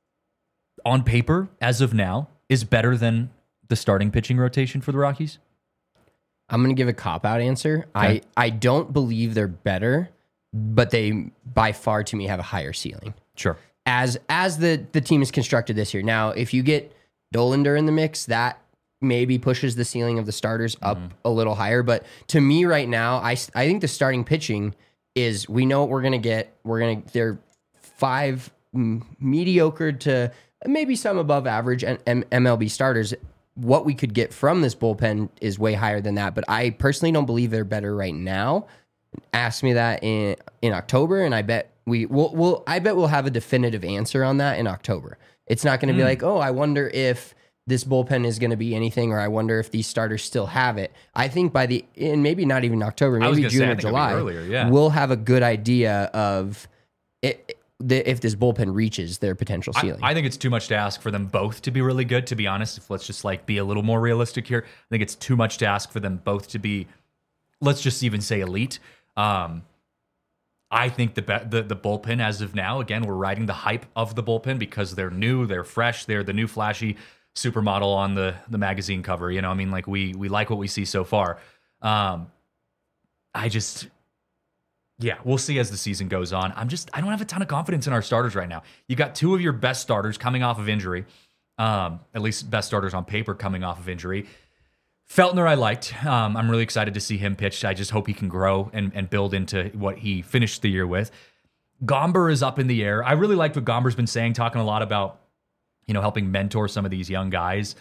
B: on paper, as of now, is better than the starting pitching rotation for the Rockies?
C: I'm going to give a cop-out answer.
B: Okay.
C: I, I don't believe they're better, but they, by far, to me, have a higher ceiling.
B: Sure.
C: As as the, the team is constructed this year. Now, if you get Dolander in the mix, that maybe pushes the ceiling of the starters up
B: Mm-hmm.
C: a little higher. But to me right now, I, I think the starting pitching is, we know what we're going to get. We're going to, they're five mm, mediocre to maybe some above average M- MLB starters. What we could get from this bullpen is way higher than that. But I personally don't believe they're better right now. Ask me that in in October, and I bet we will. We'll, I bet we'll have a definitive answer on that in October. It's not going to be like, oh, I wonder if this bullpen is going to be anything, or I wonder if these starters still have it. I think by the, and maybe not even October,
B: I was
C: maybe
B: gonna
C: June
B: say, I
C: or
B: think it'll be
C: July,
B: earlier, yeah.
C: we'll have a good idea of it. the, if this bullpen reaches their potential
B: I,
C: ceiling.
B: I think it's too much to ask for them both to be really good, to be honest. If let's just like be a little more realistic here. I think it's too much to ask for them both to be, let's just even say elite. Um, I think the, be- the the bullpen as of now, again, we're riding the hype of the bullpen because they're new, they're fresh, they're the new flashy supermodel on the the magazine cover. You know, I mean, like we we like what we see so far. Um, I just, yeah, we'll see as the season goes on. I'm just, I don't have a ton of confidence in our starters right now. You got two of your best starters coming off of injury, um, at least best starters on paper coming off of injury. Feltner, I liked. Um, I'm really excited to see him pitch. I just hope he can grow and, and build into what he finished the year with. Gomber is up in the air. I really like what Gomber's been saying, talking a lot about, you know, helping mentor some of these young guys.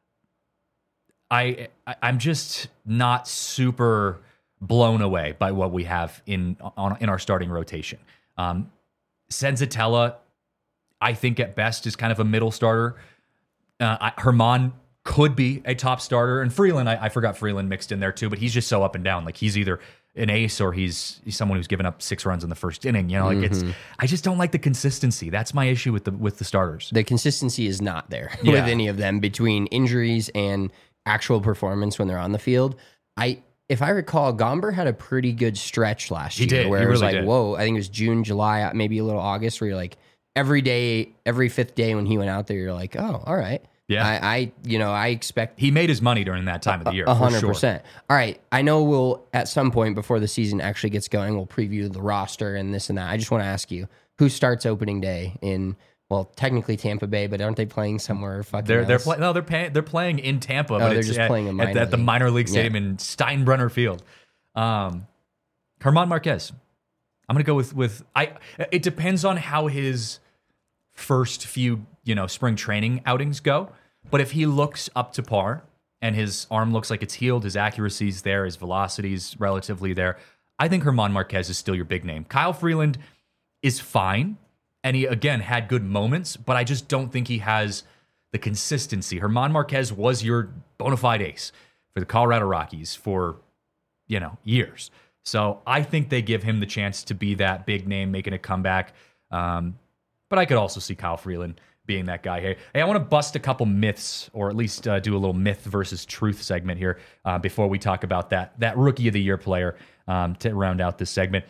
B: I, I I'm just not super blown away by what we have in on in our starting rotation. Um, Senzatella, I think at best is kind of a middle starter. Uh, I, Herman could be a top starter, and Freeland, I, I forgot Freeland mixed in there too, but he's just so up and down. Like he's either an ace or he's, he's someone who's given up six runs in the first inning. You know, like
C: Mm-hmm.
B: it's. I just don't like the consistency. That's my issue with the with the starters.
C: the consistency is not there
B: Yeah.
C: with any of them between injuries and actual performance when they're on the field. I, if I recall, Gomber had a pretty good stretch last
B: He
C: year
B: did.
C: where
B: He
C: it was
B: really
C: like,
B: did.
C: whoa, I think it was June, July, maybe a little August, where you're like, every day, every fifth day when he went out there, you're like, oh, all right.
B: Yeah.
C: I, I you know, I expect
B: He made his money during that time of the year.
C: A
B: for
C: hundred
B: sure.
C: percent. All right. I know we'll at some point before the season actually gets going, we'll preview the roster and this and that. I just want to ask you, who starts opening day in, well, technically Tampa Bay, but aren't they playing somewhere fucking
B: They're they're
C: else?
B: playing. No, they're paying. They're playing in Tampa, but
C: they're
B: it's
C: just
B: at,
C: playing a
B: at,
C: minor
B: at the
C: league.
B: minor league
C: Yeah.
B: stadium in Steinbrenner Field. Um, Herman Marquez. I'm gonna go with with I. It depends on how his first few you know spring training outings go. But if he looks up to par and his arm looks like it's healed, his accuracy's there, his velocity's relatively there, I think Herman Marquez is still your big name. Kyle Freeland is fine, and he again had good moments, but I just don't think he has the consistency. Herman Marquez was your bona fide ace for the Colorado Rockies for, you know, years. So I think they give him the chance to be that big name, making a comeback. Um, but I could also see Kyle Freeland being that guy. Hey, hey, I want to bust a couple myths, or at least uh, do a little myth versus truth segment here uh, before we talk about that that Rookie of the Year player um, to round out this segment.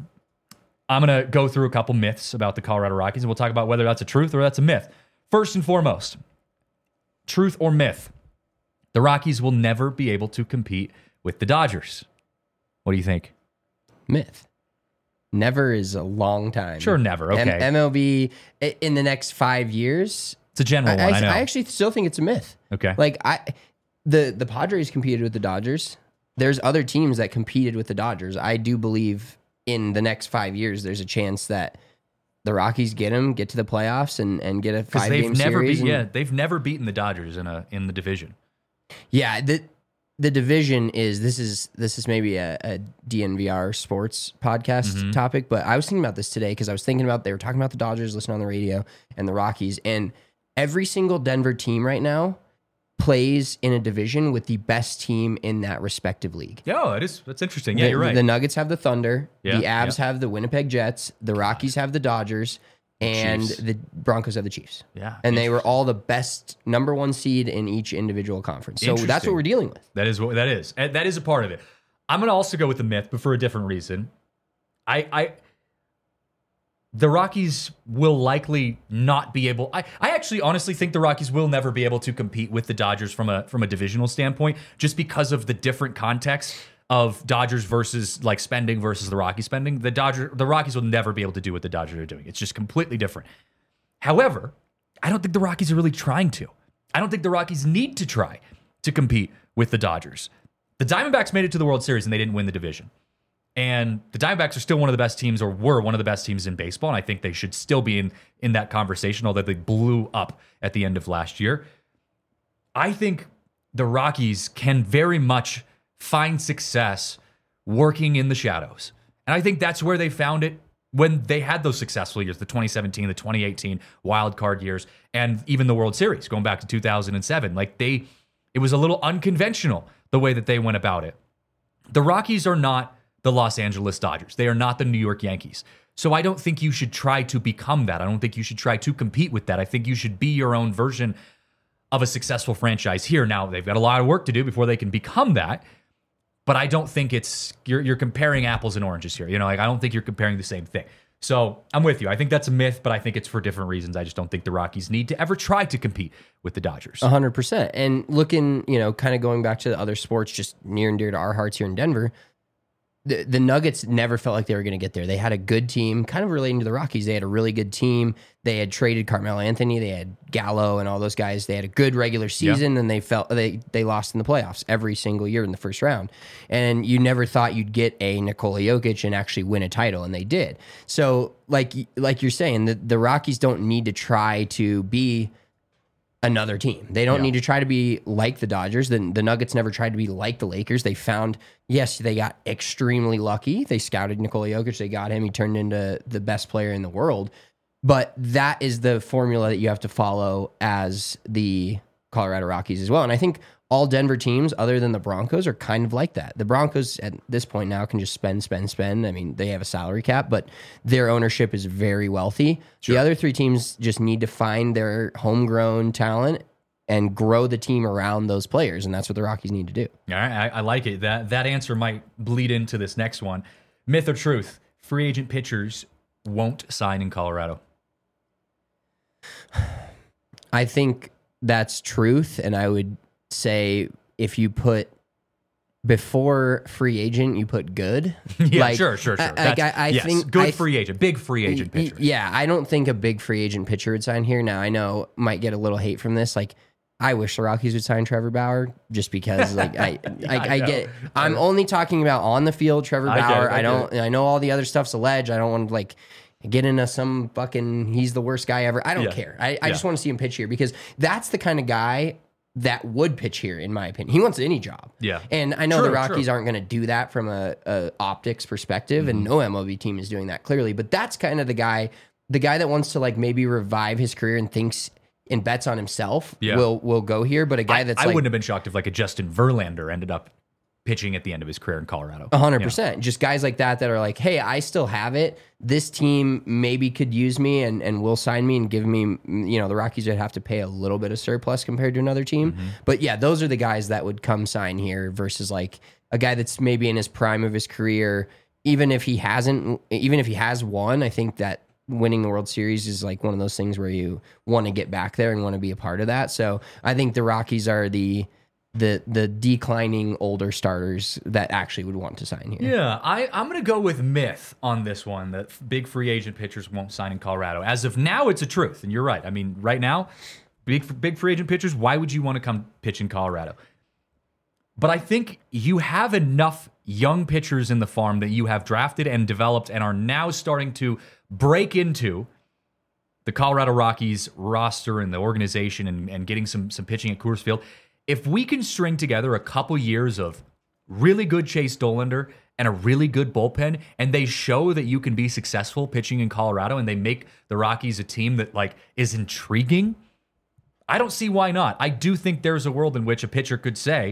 B: I'm going to go through a couple myths about the Colorado Rockies, and we'll talk about whether that's a truth or that's a myth. First and foremost, truth or myth, the Rockies will never be able to compete with the Dodgers. What do you think?
C: Myth. Never is a long time.
B: Sure, never. Okay.
C: M- MLB i- in the next five years.
B: It's a general
C: I,
B: one, I,
C: I,
B: know.
C: I actually still think it's a myth.
B: okay.
C: Like I, the the Padres competed with the Dodgers. There's other teams that competed with the Dodgers. I do believe in the next five years, there's a chance that the Rockies get them, get to the playoffs, and and get a
B: Because
C: five
B: they've
C: game
B: never
C: series.
B: beat,
C: and-
B: yeah, they've never beaten the Dodgers in a in the division.
C: Yeah, the the division is this is this is maybe a, a D N V R sports podcast
B: Mm-hmm.
C: topic, but I was thinking about this today because I was thinking about they were talking about the Dodgers, listening on the radio, and the Rockies, and every single Denver team right now plays in a division with the best team in that respective league.
B: Yeah, it is. That's interesting. Yeah,
C: the,
B: you're right.
C: The Nuggets have the Thunder,
B: Yeah,
C: the Avs
B: yeah.
C: have the Winnipeg Jets, the Rockies have the Dodgers, and
B: Chiefs.
C: the Broncos have the Chiefs.
B: yeah,
C: And they were all the best number one seed in each individual conference. So that's
B: Interesting.
C: what we're dealing with.
B: That is what that is. And that is a part of it. I'm going to also go with the myth, but for a different reason. I, I, the Rockies will likely not be able. I, I actually honestly think the Rockies will never be able to compete with the Dodgers from a from a divisional standpoint, just because of the different context of Dodgers versus like spending versus the Rockies spending. The Dodger, the Rockies will never be able to do what the Dodgers are doing. It's just completely different. However, I don't think the Rockies are really trying to. I don't think the Rockies need to try to compete with the Dodgers. The Diamondbacks made it to the World Series and they didn't win the division. And the Diamondbacks are still one of the best teams, or were one of the best teams in baseball. And I think they should still be in, in that conversation, although they blew up at the end of last year. I think the Rockies can very much find success working in the shadows. And I think that's where they found it when they had those successful years, the twenty seventeen, the twenty eighteen wild card years, and even the World Series going back to two thousand seven. Like they, it was a little unconventional the way that they went about it. The Rockies are not the Los Angeles Dodgers. They are not the New York Yankees. So I don't think you should try to become that. I don't think you should try to compete with that. I think you should be your own version of a successful franchise here. Now, they've got a lot of work to do before they can become that. But I don't think it's, you're, you're comparing apples and oranges here. You know, like I don't think you're comparing the same thing. So I'm with you. I think that's a myth, but I think it's for different reasons. I just don't think the Rockies need to ever try to compete with the Dodgers.
C: A hundred percent. And looking, you know, kind of going back to the other sports, just near and dear to our hearts here in Denver, the, the Nuggets never felt like they were going to get there. They had a good team, kind of relating to the Rockies. They had a really good team. They had traded Carmelo Anthony. They had Gallo and all those guys. They had a good regular season, yeah. and they felt they they lost in the playoffs every single year in the first round. And you never thought you'd get a Nikola Jokic and actually win a title, and they did. So, like like you're saying, the, the Rockies don't need to try to be another team. They don't yeah. need to try to be like the Dodgers. The, the Nuggets never tried to be like the Lakers. They found, yes, they got extremely lucky. They scouted Nikola Jokic. They got him. He turned into the best player in the world. But that is the formula that you have to follow as the Colorado Rockies as well. And I think all Denver teams, other than the Broncos, are kind of like that. The Broncos at this point now can just spend, spend, spend. I mean, they have a salary cap, but their ownership is very wealthy. Sure. The other three teams just need to find their homegrown talent and grow the team around those players, and that's what the Rockies need to do.
B: All right, I, I like it. That that answer might bleed into this next one. Myth or truth? Free agent pitchers won't sign in Colorado.
C: I think that's truth, and I would say if you put before free agent, you put good.
B: yeah,
C: like,
B: sure, sure, sure.
C: I, I, I
B: yes,
C: think
B: good
C: I,
B: free agent, big free agent pitcher.
C: Yeah, I don't think a big free agent pitcher would sign here. Now I know might get a little hate from this. Like, I wish the Rockies would sign Trevor Bauer just because, like, I,
B: yeah,
C: I, I, I get. I'm only talking about on the field, Trevor
B: I
C: Bauer.
B: It, I,
C: I don't. I know all the other stuff's alleged. I don't want to like. Get into some fucking, he's the worst guy ever. I don't
B: yeah.
C: care. I, I
B: yeah.
C: just want to see him pitch here because that's the kind of guy that would pitch here, in my opinion. He wants any job.
B: Yeah.
C: And I know
B: true,
C: the Rockies
B: true.
C: aren't going to do that from a, a optics perspective,
B: Mm-hmm.
C: and no M L B team is doing that clearly. But that's kind of the guy, the guy that wants to like maybe revive his career and thinks and bets on himself
B: yeah.
C: will will go here. But a guy
B: I,
C: that's
B: I
C: like,
B: wouldn't have been shocked if like a Justin Verlander ended up pitching at the end of his career in Colorado.
C: A hundred percent. Just guys like that that are like, hey, I still have it. This team maybe could use me and, and will sign me and give me, you know, the Rockies would have to pay a little bit of surplus compared to another team.
B: Mm-hmm.
C: But yeah, those are the guys that would come sign here versus like a guy that's maybe in his prime of his career. Even if he hasn't, even if he has won, I think that winning the World Series is like one of those things where you want to get back there and want to be a part of that. So I think the Rockies are the the the declining older starters that actually would want to sign here.
B: Yeah, I, I'm going to go with myth on this one, that big free agent pitchers won't sign in Colorado. As of now, it's a truth, and you're right. I mean, right now, big big free agent pitchers, why would you want to come pitch in Colorado? But I think you have enough young pitchers in the farm that you have drafted and developed and are now starting to break into the Colorado Rockies roster and the organization and, and getting some, some pitching at Coors Field. If we can string together a couple years of really good Chase Dollander and a really good bullpen, and they show that you can be successful pitching in Colorado, and they make the Rockies a team that like is intriguing, I don't see why not. I do think there's a world in which a pitcher could say,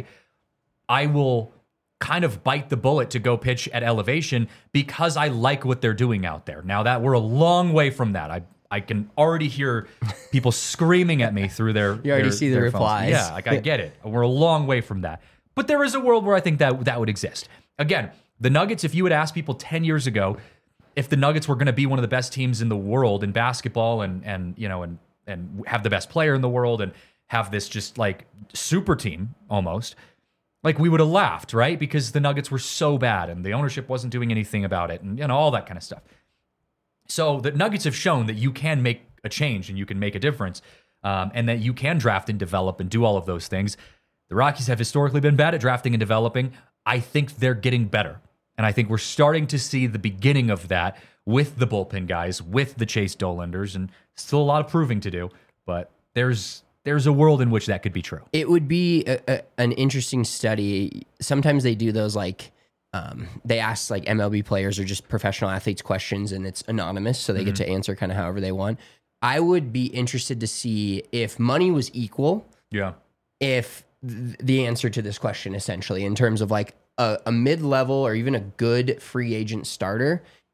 B: I will kind of bite the bullet to go pitch at elevation because I like what they're doing out there. Now that we're a long way from that. I I can already hear people screaming at me through their
C: You already
B: their,
C: see the
B: their phones.
C: replies.
B: Yeah, like I get it. We're a long way from that. But there is a world where I think that that would exist. Again, the Nuggets, if you had asked people ten years ago if the Nuggets were going to be one of the best teams in the world in basketball and and you know and and have the best player in the world and have this just like super team almost, like we would have laughed, right? Because the Nuggets were so bad and the ownership wasn't doing anything about it and you know all that kind of stuff. So the Nuggets have shown that you can make a change and you can make a difference, um, and that you can draft and develop and do all of those things. The Rockies have historically been bad at drafting and developing. I think they're getting better. And I think we're starting to see the beginning of that with the bullpen guys, with the Chase Dollanders, and still a lot of proving to do. But there's there's a world in which that could be true.
C: It would be a, a, an interesting study. Sometimes they do those like, um, they ask like M L B players or just professional athletes questions, and it's anonymous, so they mm-hmm. get to answer kind of however they want. I would be interested to see if money was equal.
B: Yeah.
C: If th- the answer to this question, essentially, in terms of like a, a mid-level or even a good free agent starter,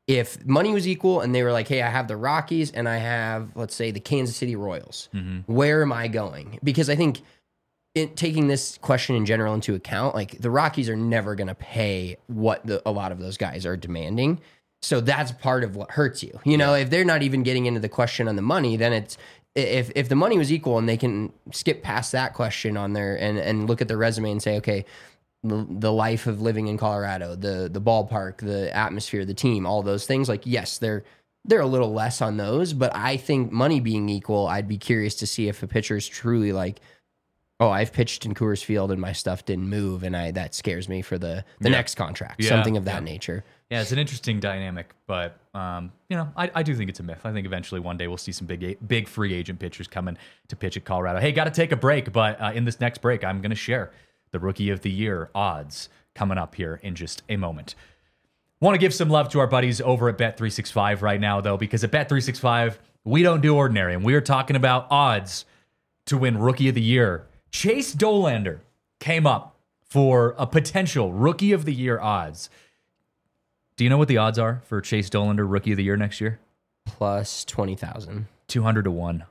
C: if money was equal and they were like, hey, I have the Rockies and I have, let's say, the Kansas City Royals,
B: Mm-hmm.
C: where am I going? Because I think it, taking this question in general into account, like the Rockies are never going to pay what the, a lot of those guys are demanding. So that's part of what hurts you. You know, if they're not even getting into the question on the money, then it's, if if the money was equal and they can skip past that question on there and, and look at their resume and say, okay, the, the life of living in Colorado, the the ballpark, the atmosphere, the team, all those things, like, yes, they're they're a little less on those, but I think money being equal, I'd be curious to see if a pitcher is truly like, oh, I've pitched in Coors Field and my stuff didn't move, and I that scares me for the the
B: Yeah.
C: next contract,
B: Yeah,
C: something of that
B: yeah.
C: nature.
B: Yeah, it's an interesting dynamic, but um, you know, I, I do think it's a myth. I think eventually one day we'll see some big big free agent pitchers coming to pitch at Colorado. Hey, got to take a break, but uh, in this next break, I'm going to share the Rookie of the Year odds coming up here in just a moment. Want to give some love to our buddies over at Bet three sixty-five right now, though, because at Bet three sixty-five, we don't do ordinary, and we are talking about odds to win Rookie of the Year. Chase Dollander came up for a potential Rookie of the Year odds. Do you know what the odds are for Chase Dollander Rookie of the Year next year?
C: Plus twenty thousand.
B: two hundred to one.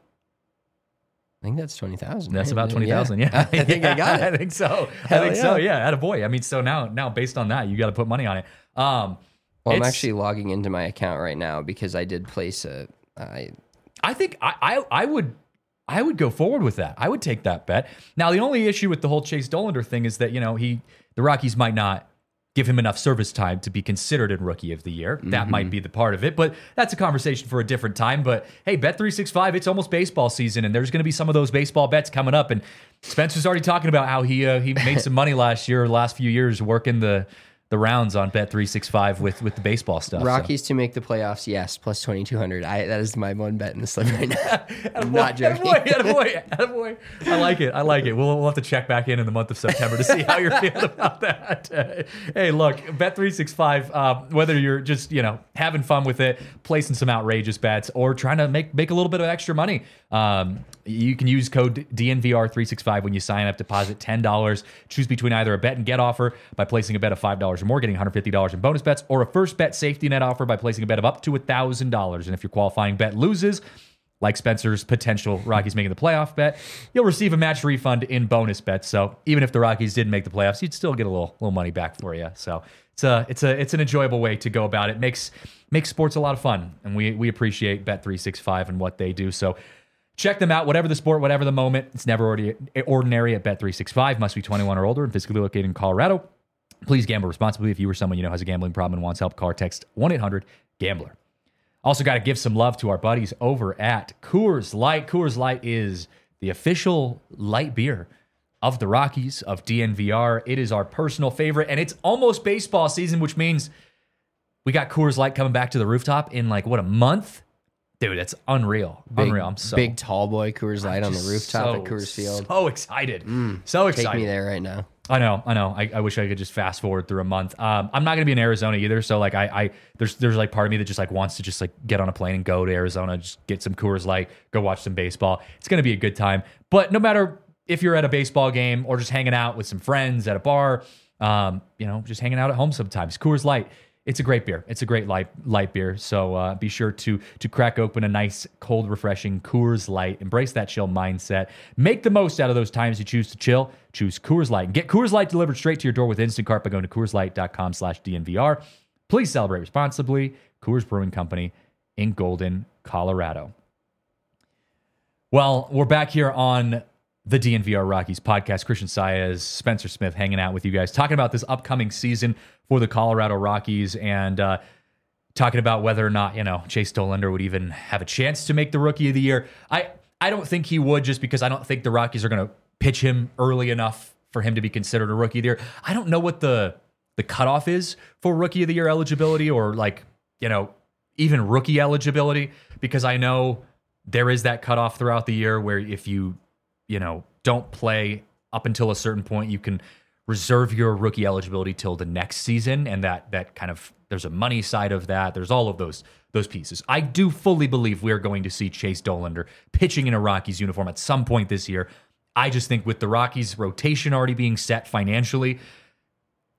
C: I think that's twenty thousand.
B: That's about twenty thousand. Yeah.
C: I think I got it.
B: I think so.
C: Hell
B: I think so.
C: yeah.
B: Yeah. Attaboy. I mean, so now, now based on that, you got to put money on it. Um,
C: Well, I'm
B: it's-
C: actually logging into my account right now because I did place a. I
B: I think I, I I would I would go forward with that. I would take that bet. Now, the only issue with the whole Chase Dollander thing is that, you know, he the Rockies might not give him enough service time to be considered in Rookie of the Year. That might be the part of it, but that's a conversation for a different time. But hey, Bet three sixty-five, it's almost baseball season, and there's going to be some of those baseball bets coming up. And Spencer's already talking about how he uh, he made some money last year, the last few years, working the the rounds on Bet three sixty-five with with the baseball stuff. so.
C: Rockies to make the playoffs, yes, plus twenty-two hundred. I that is my one bet in the slip right now. I'm not joking.
B: Attaboy, attaboy, attaboy. I like it. I like it. We'll, we'll have to check back in in the month of September to see how you're feeling about that. Uh, hey, look, Bet three sixty-five, uh, whether you're just, you know, having fun with it, placing some outrageous bets, or trying to make, make a little bit of extra money, um, you can use code D N V R three sixty-five when you sign up, deposit ten dollars, choose between either a bet and get offer by placing a bet of five dollars or more, getting one hundred fifty dollars in bonus bets, or a first bet safety net offer by placing a bet of up to one thousand dollars. And if your qualifying bet loses, like Spencer's potential Rockies making the playoff bet, you'll receive a match refund in bonus bets. So even if the Rockies didn't make the playoffs, you'd still get a little little money back for you. So it's a it's a it's an enjoyable way to go about it. Makes makes sports a lot of fun, and we we appreciate Bet three sixty-five and what they do. So check them out, whatever the sport, whatever the moment. It's never ordi- ordinary at Bet three sixty-five. Must be twenty-one or older and physically located in Colorado. Please gamble responsibly. If you or someone you know has a gambling problem and wants help, call or text one eight hundred gambler. Also got to give some love to our buddies over at Coors Light. Coors Light is the official light beer of the Rockies, of D N V R. It is our personal favorite, and it's almost baseball season, which means we got Coors Light coming back to the rooftop in like, what, a month? Dude, that's unreal.
C: Big,
B: unreal. I'm so
C: big tall boy Coors Light on the
B: just
C: rooftop
B: so,
C: at Coors Field.
B: So excited. so excited.
C: Take me there right now.
B: I know, I know. I, I wish I could just fast forward through a month. Um, I'm not going to be in Arizona either, so like I, I, there's, there's like part of me that just like wants to just like get on a plane and go to Arizona, just get some Coors Light, go watch some baseball. It's going to be a good time. But no matter if you're at a baseball game or just hanging out with some friends at a bar, um, you know, just hanging out at home sometimes, Coors Light. It's a great beer. It's a great light light beer. So uh, be sure to to crack open a nice, cold, refreshing Coors Light. Embrace that chill mindset. Make the most out of those times you choose to chill. Choose Coors Light. And get Coors Light delivered straight to your door with Instacart by going to CoorsLight.com slash DNVR. Please celebrate responsibly. Coors Brewing Company in Golden, Colorado. Well, we're back here on the D N V R Rockies podcast. Christian Saez, Spencer Smith hanging out with you guys, talking about this upcoming season for the Colorado Rockies and uh, talking about whether or not, you know, Chase Dollander would even have a chance to make the Rookie of the Year. I, I don't think he would, just because I don't think the Rockies are going to pitch him early enough for him to be considered a Rookie of the Year. I don't know what the the cutoff is for Rookie of the Year eligibility, or like, you know, even rookie eligibility, because I know there is that cutoff throughout the year where if you, you know, don't play up until a certain point, you can reserve your rookie eligibility till the next season. And that that kind of, there's a money side of that. There's all of those those pieces. I do fully believe we're going to see Chase Dollander pitching in a Rockies uniform at some point this year. I just think with the Rockies rotation already being set financially,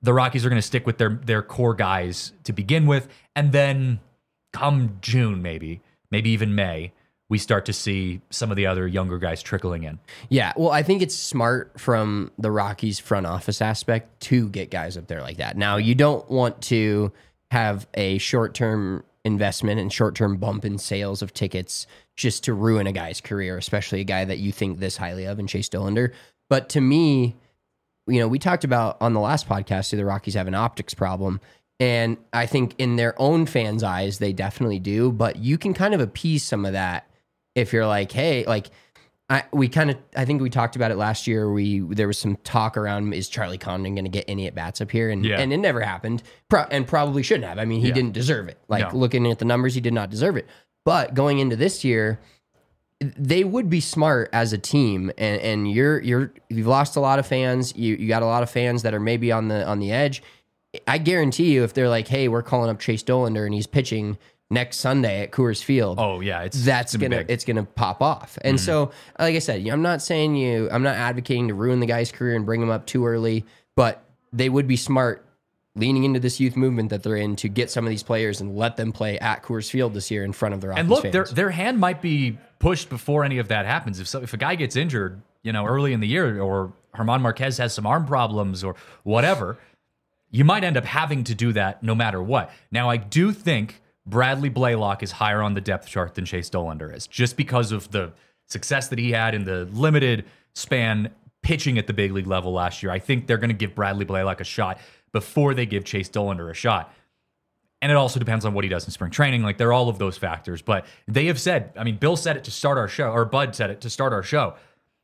B: the Rockies are going to stick with their their core guys to begin with, and then come June, maybe, maybe even May, we start to see some of the other younger guys trickling in.
C: Yeah, well, I think it's smart from the Rockies front office aspect to get guys up there like that. Now, you don't want to have a short-term investment and short-term bump in sales of tickets just to ruin a guy's career, especially a guy that you think this highly of in Chase Dollander. But to me, you know, we talked about on the last podcast, the Rockies have an optics problem. And I think in their own fans' eyes, they definitely do. But you can kind of appease some of that if you're like, hey, like, I we kind of, I think we talked about it last year. We there was some talk around, is Charlie Condon going to get any at bats up here? And
B: yeah.
C: and it never happened, Pro- and probably shouldn't have. I mean, he
B: yeah.
C: didn't deserve it. Like
B: no.
C: looking at the numbers, he did not deserve it. But going into this year, they would be smart as a team, and and you're you're you've lost a lot of fans. You you got a lot of fans that are maybe on the on the edge. I guarantee you, if they're like, hey, we're calling up Chase Dollander and he's pitching next Sunday at Coors Field.
B: Oh yeah, it's
C: that's
B: it's
C: gonna
B: big.
C: it's gonna pop off. And
B: Mm-hmm.
C: so, like I said, I'm not saying you, I'm not advocating to ruin the guy's career and bring him up too early, but they would be smart leaning into this youth movement that they're in to get some of these players and let them play at Coors Field this year in front of the Rockies
B: And look,
C: fans.
B: their their hand might be pushed before any of that happens. If so, if a guy gets injured, you know, early in the year, or German Marquez has some arm problems or whatever, you might end up having to do that no matter what. Now, I do think Bradley Blaylock is higher on the depth chart than Chase Dollander is, just because of the success that he had in the limited span pitching at the big league level last year. I think they're going to give Bradley Blaylock a shot before they give Chase Dollander a shot. And it also depends on what he does in spring training. Like, they're all of those factors. But they have said, I mean, Bill said it to start our show, or Bud said it to start our show.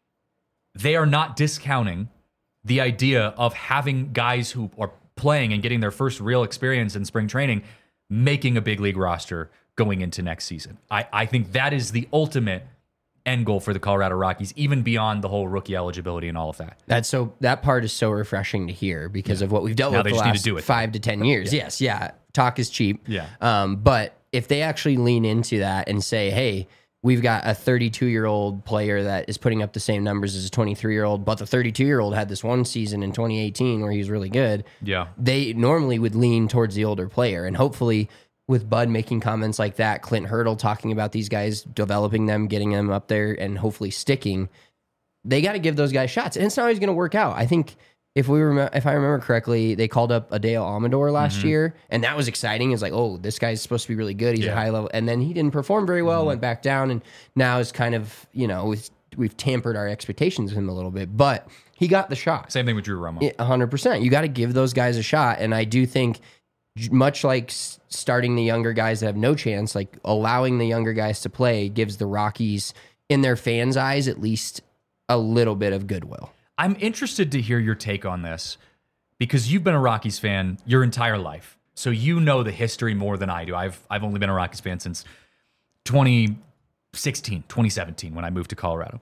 B: They are not discounting the idea of having guys who are playing and getting their first real experience in spring training making a big league roster going into next season. I, I think that is the ultimate end goal for the Colorado Rockies, even beyond the whole rookie eligibility and all of that.
C: That's so that part is so refreshing to hear because yeah. of what we've dealt
B: now
C: with
B: they
C: the
B: just
C: last
B: need to do it,
C: five to ten years. Yeah. Yes, yeah. Talk is cheap.
B: Yeah.
C: Um, but if they actually lean into that and say, hey, we've got a thirty-two-year-old player that is putting up the same numbers as a twenty-three-year-old, but the thirty-two-year-old had this one season in twenty eighteen where he was really good.
B: Yeah.
C: They normally would lean towards the older player. And hopefully with Bud making comments like that, Clint Hurdle talking about these guys, developing them, getting them up there, and hopefully sticking, they got to give those guys shots. And it's not always going to work out. I think if we remember, if I remember correctly, they called up Adele Amador last mm-hmm. year, and that was exciting. It's like, oh, this guy's supposed to be really good. He's
B: yeah.
C: a high level. And then he didn't perform very well,
B: mm-hmm.
C: went back down, and now is kind of, you know, we've, we've tampered our expectations of him a little bit. But he got the shot.
B: Same thing with Drew Romo.
C: one hundred percent. You got to give those guys a shot. And I do think, much like starting the younger guys that have no chance, like allowing the younger guys to play gives the Rockies, in their fans' eyes, at least a little bit of goodwill.
B: I'm interested to hear your take on this because you've been a Rockies fan your entire life. So you know the history more than I do. I've I've only been a Rockies fan since twenty sixteen, twenty seventeen when I moved to Colorado.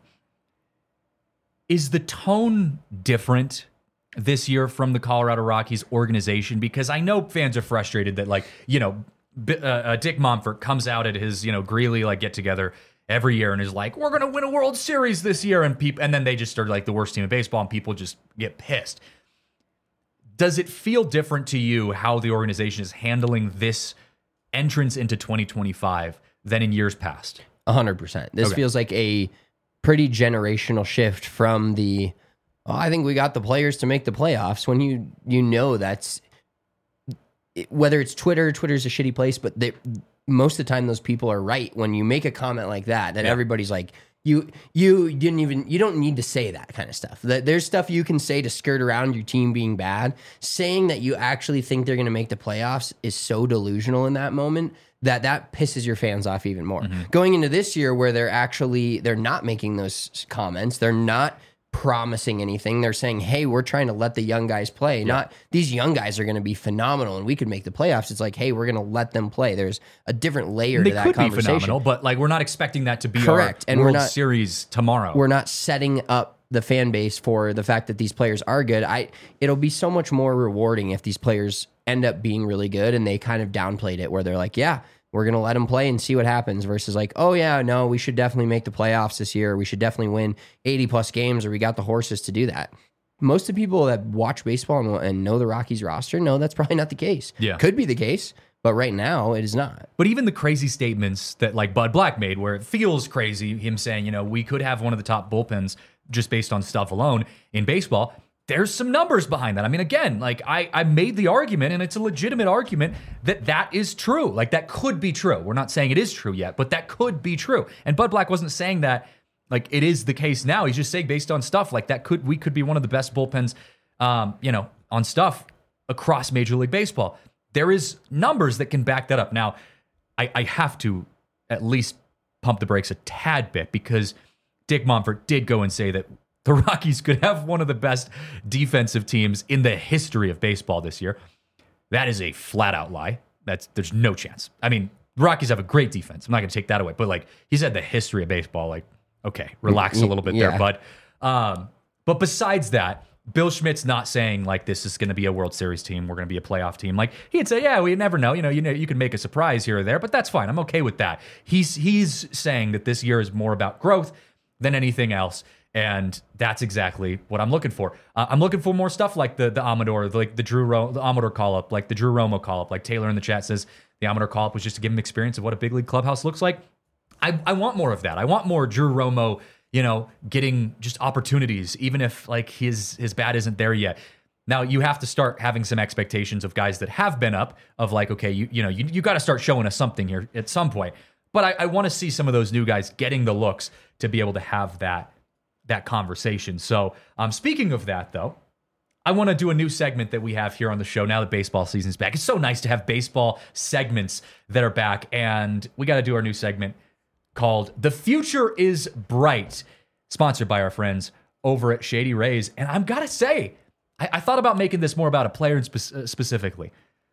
B: Is the tone different this year from the Colorado Rockies organization? Because I know fans are frustrated that, like, you know, uh, uh, Dick Monfort comes out at his, you know, Greeley like get together every year and is like, we're going to win a World Series this year. And people, and then they just are like the worst team in baseball and people just get pissed. Does it feel different to you how the organization is handling this entrance into twenty twenty-five than in years past?
C: A hundred percent. This
B: Okay.
C: feels like a pretty generational shift from the, oh, I think we got the players to make the playoffs, when you you know that's, whether it's Twitter, Twitter's a shitty place, but they, most of the time those people are right when you make a comment like that, that
B: Yeah.
C: everybody's like, you you didn't even, you don't need to say that kind of stuff. That there's stuff you can say to skirt around your team being bad. Saying that you actually think they're going to make the playoffs is so delusional in that moment that that pisses your fans off even more.
B: Mm-hmm.
C: Going into this year where they're actually, they're not making those comments, they're not promising anything. They're saying, hey, we're trying to let the young guys play. Yeah. Not these young guys are going to be phenomenal and we could make the playoffs. It's like, hey, we're going to let them play. There's a different layer
B: They
C: to that
B: could be
C: conversation.
B: phenomenal, but like we're not expecting that to be
C: Correct.
B: our
C: And we're
B: World
C: not-
B: Series tomorrow.
C: We're not setting up the fan base for the fact that these players are good. I it'll be so much more rewarding if these players end up being really good and they kind of downplayed it where they're like, yeah, we're going to let them play and see what happens, versus like, oh yeah, no, we should definitely make the playoffs this year. We should definitely win eighty plus games, or we got the horses to do that. most of the people that watch baseball and, and know the Rockies roster know that's probably not the case.
B: Yeah.
C: Could be the case, but right now it is not.
B: But even the crazy statements that like Bud Black made, where it feels crazy, him saying, you know, we could have one of the top bullpens just based on stuff alone in baseball. There's some numbers behind that. I mean, again, like I, I made the argument, and it's a legitimate argument that that is true. Like that could be true. We're not saying it is true yet, but that could be true. And Bud Black wasn't saying that like it is the case now. He's just saying based on stuff like that could we could be one of the best bullpens, um, you know, on stuff across Major League Baseball. There is numbers that can back that up. Now, I, I have to at least pump the brakes a tad bit because Dick Monfort did go and say that the Rockies could have one of the best defensive teams in the history of baseball this year. That is a flat out lie. That's there's no chance. I mean, the Rockies have a great defense. I'm not going to take that away. But like he said, the history of baseball. Like, okay, relax a little bit
C: Yeah.
B: there, bud. Um, but besides that, Bill Schmidt's not saying like this is going to be a World Series team. We're going to be a playoff team. Like he'd say, yeah, we never know. You know, you know, you can make a surprise here or there, but that's fine. I'm okay with that. He's he's saying that this year is more about growth than anything else. And that's exactly what I'm looking for. Uh, I'm looking for more stuff like the the Amador, like the Drew Ro- the Amador call up, like the Drew Romo call up. Like Taylor in the chat says, the Amador call up was just to give him experience of what a big league clubhouse looks like. I, I want more of that. I want more Drew Romo, you know, getting just opportunities, even if like his his bat isn't there yet. Now you have to start having some expectations of guys that have been up. Of like, okay, you you know, you you got to start showing us something here at some point. But I, I want to see some of those new guys getting the looks to be able to have that. that conversation. So um, speaking of that, though, I want to do a new segment that we have here on the show now that baseball season's back. It's so nice to have baseball segments that are back, and we got to do our new segment called The Future is Bright, sponsored by our friends over at Shady Rays. And I've got to say, I, I thought about making this more about a player spe- uh, specifically,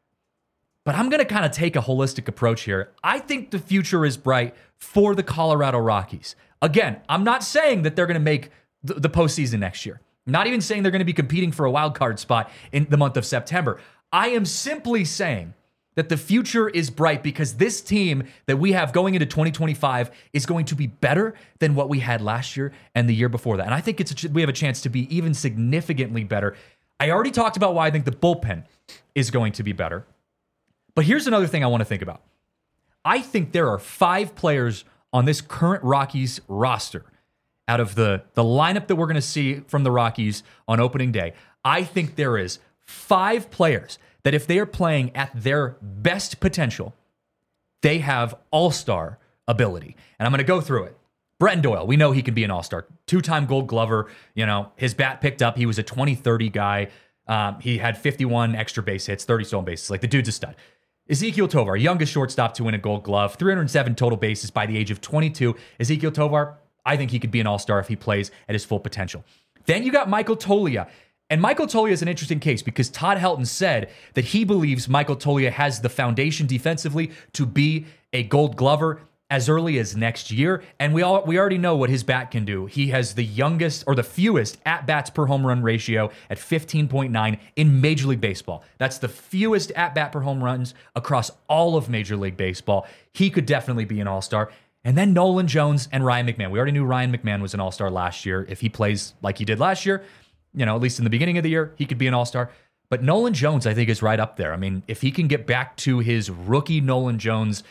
B: but I'm going to kind of take a holistic approach here. I think the future is bright for the Colorado Rockies. Again, I'm not saying that they're going to make the, the postseason next year. I'm not even saying they're going to be competing for a wild card spot in the month of September. I am simply saying that the future is bright because this team that we have going into twenty twenty-five is going to be better than what we had last year and the year before that. And I think it's a, we have a chance to be even significantly better. I already talked about why I think the bullpen is going to be better. But here's another thing I want to think about. I think there are five players on this current Rockies roster out of the, the lineup that we're going to see from the Rockies on opening day. I think there is five players that if they are playing at their best potential, they have all-star ability. And I'm going to go through it. Bretton Doyle, we know he can be an all-star. Two-time Gold Glover. You know, his bat picked up. He was a twenty thirty guy. Um, he had fifty-one extra base hits, thirty stolen bases. Like, the dude's a stud. Ezequiel Tovar, youngest shortstop to win a Gold Glove, three hundred seven total bases by the age of twenty-two. Ezequiel Tovar, I think he could be an all-star if he plays at his full potential. Then you got Michael Toglia. And Michael Toglia is an interesting case because Todd Helton said that he believes Michael Toglia has the foundation defensively to be a Gold Glover as early as next year. And we all we already know what his bat can do. He has the youngest or the fewest at-bats per home run ratio at fifteen point nine in Major League Baseball. That's the fewest at-bat per home runs across all of Major League Baseball. He could definitely be an all-star. And then Nolan Jones and Ryan McMahon. We already knew Ryan McMahon was an all-star last year. If he plays like he did last year, you know, at least in the beginning of the year, he could be an all-star. But Nolan Jones, I think, is right up there. I mean, if he can get back to his rookie Nolan Jones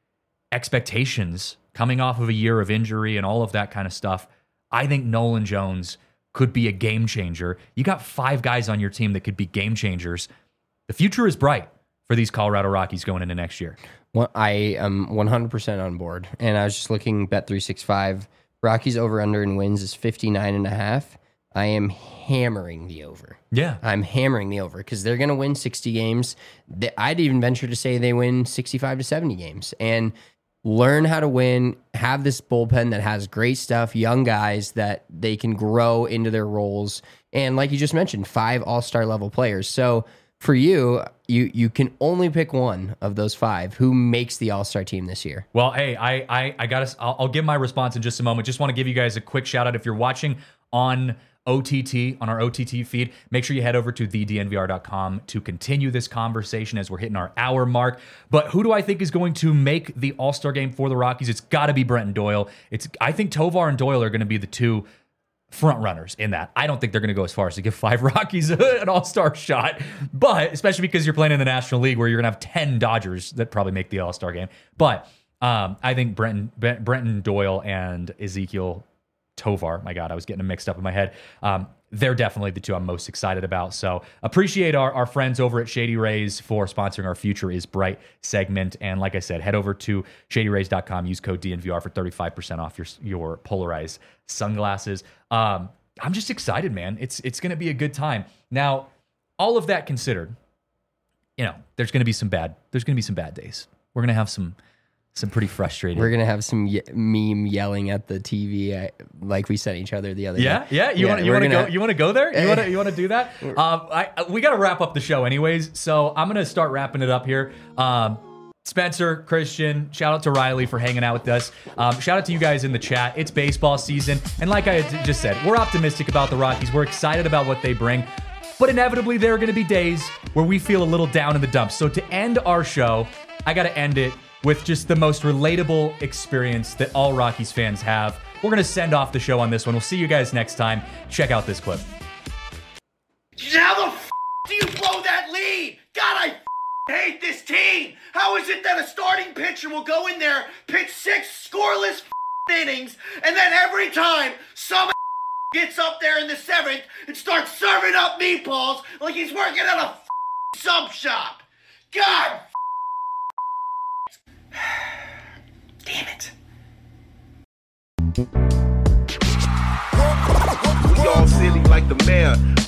B: expectations coming off of a year of injury and all of that kind of stuff, I think Nolan Jones could be a game changer. You got five guys on your team that could be game changers. The future is bright for these Colorado Rockies going into next year.
C: Well, I am one hundred percent on board. And I was just looking, Bet three sixty-five, Rockies over-under in wins is fifty-nine and a half. I am hammering the over.
B: Yeah.
C: I'm hammering the over because they're going to win sixty games. I'd even venture to say they win sixty-five to seventy games and learn how to win, have this bullpen that has great stuff, young guys that they can grow into their roles. And like you just mentioned, five all-star level players. So for you, you you can only pick one of those five. Who makes the all-star team this year?
B: Well, hey, I I, I got to. I'll, I'll give my response in just a moment. Just want to give you guys a quick shout out if you're watching on O T T, on our O T T feed. Make sure you head over to the D N V R dot com to continue this conversation as we're hitting our hour mark. But who do I think is going to make the All-Star game for the Rockies? It's got to be Bretton Doyle. It's I think Tovar and Doyle are going to be the two front runners in that. I don't think they're going to go as far as to give five Rockies an all-star shot, but especially because you're playing in the National League where you're going to have ten Dodgers that probably make the all-star game. But um, I think Brenton, Brenton Doyle and Ezekiel Tovar, my God, I was getting them mixed up in my head. Um, they're definitely the two I'm most excited about. So appreciate our, our friends over at Shady Rays for sponsoring our Future is Bright segment. And like I said, head over to shady rays dot com, use code D N V R for thirty-five percent off your, your polarized sunglasses. Um, I'm just excited, man. It's, it's going to be a good time. Now, all of that considered, you know, there's going to be some bad, there's going to be some bad days. We're going to have some, some pretty frustrating.
C: We're gonna have some ye- meme yelling at the T V, uh, like we sent each other the other
B: yeah,
C: day.
B: Yeah, You
C: yeah,
B: want you want to
C: gonna...
B: go? You want to go there? You want to you want to do that? Um, I we got to wrap up the show anyways, so I'm gonna start wrapping it up here. Um, Spencer, Christian, shout out to Riley for hanging out with us. Um, shout out to you guys in the chat. It's baseball season, and like I had just said, we're optimistic about the Rockies. We're excited about what they bring. But inevitably, there are going to be days where we feel a little down in the dumps. So to end our show, I got to end it with just the most relatable experience that all Rockies fans have. We're going to send off the show on this one. We'll see you guys next time. Check out this clip.
F: How the f*** do you blow that lead? God, I f*** hate this team. How is it that a starting pitcher will go in there, pitch six scoreless f*** innings, and then every time some gets up there in the seventh and starts serving up meatballs like he's working at a f*** sub shop? God damn it.
G: We all silly like the mayor.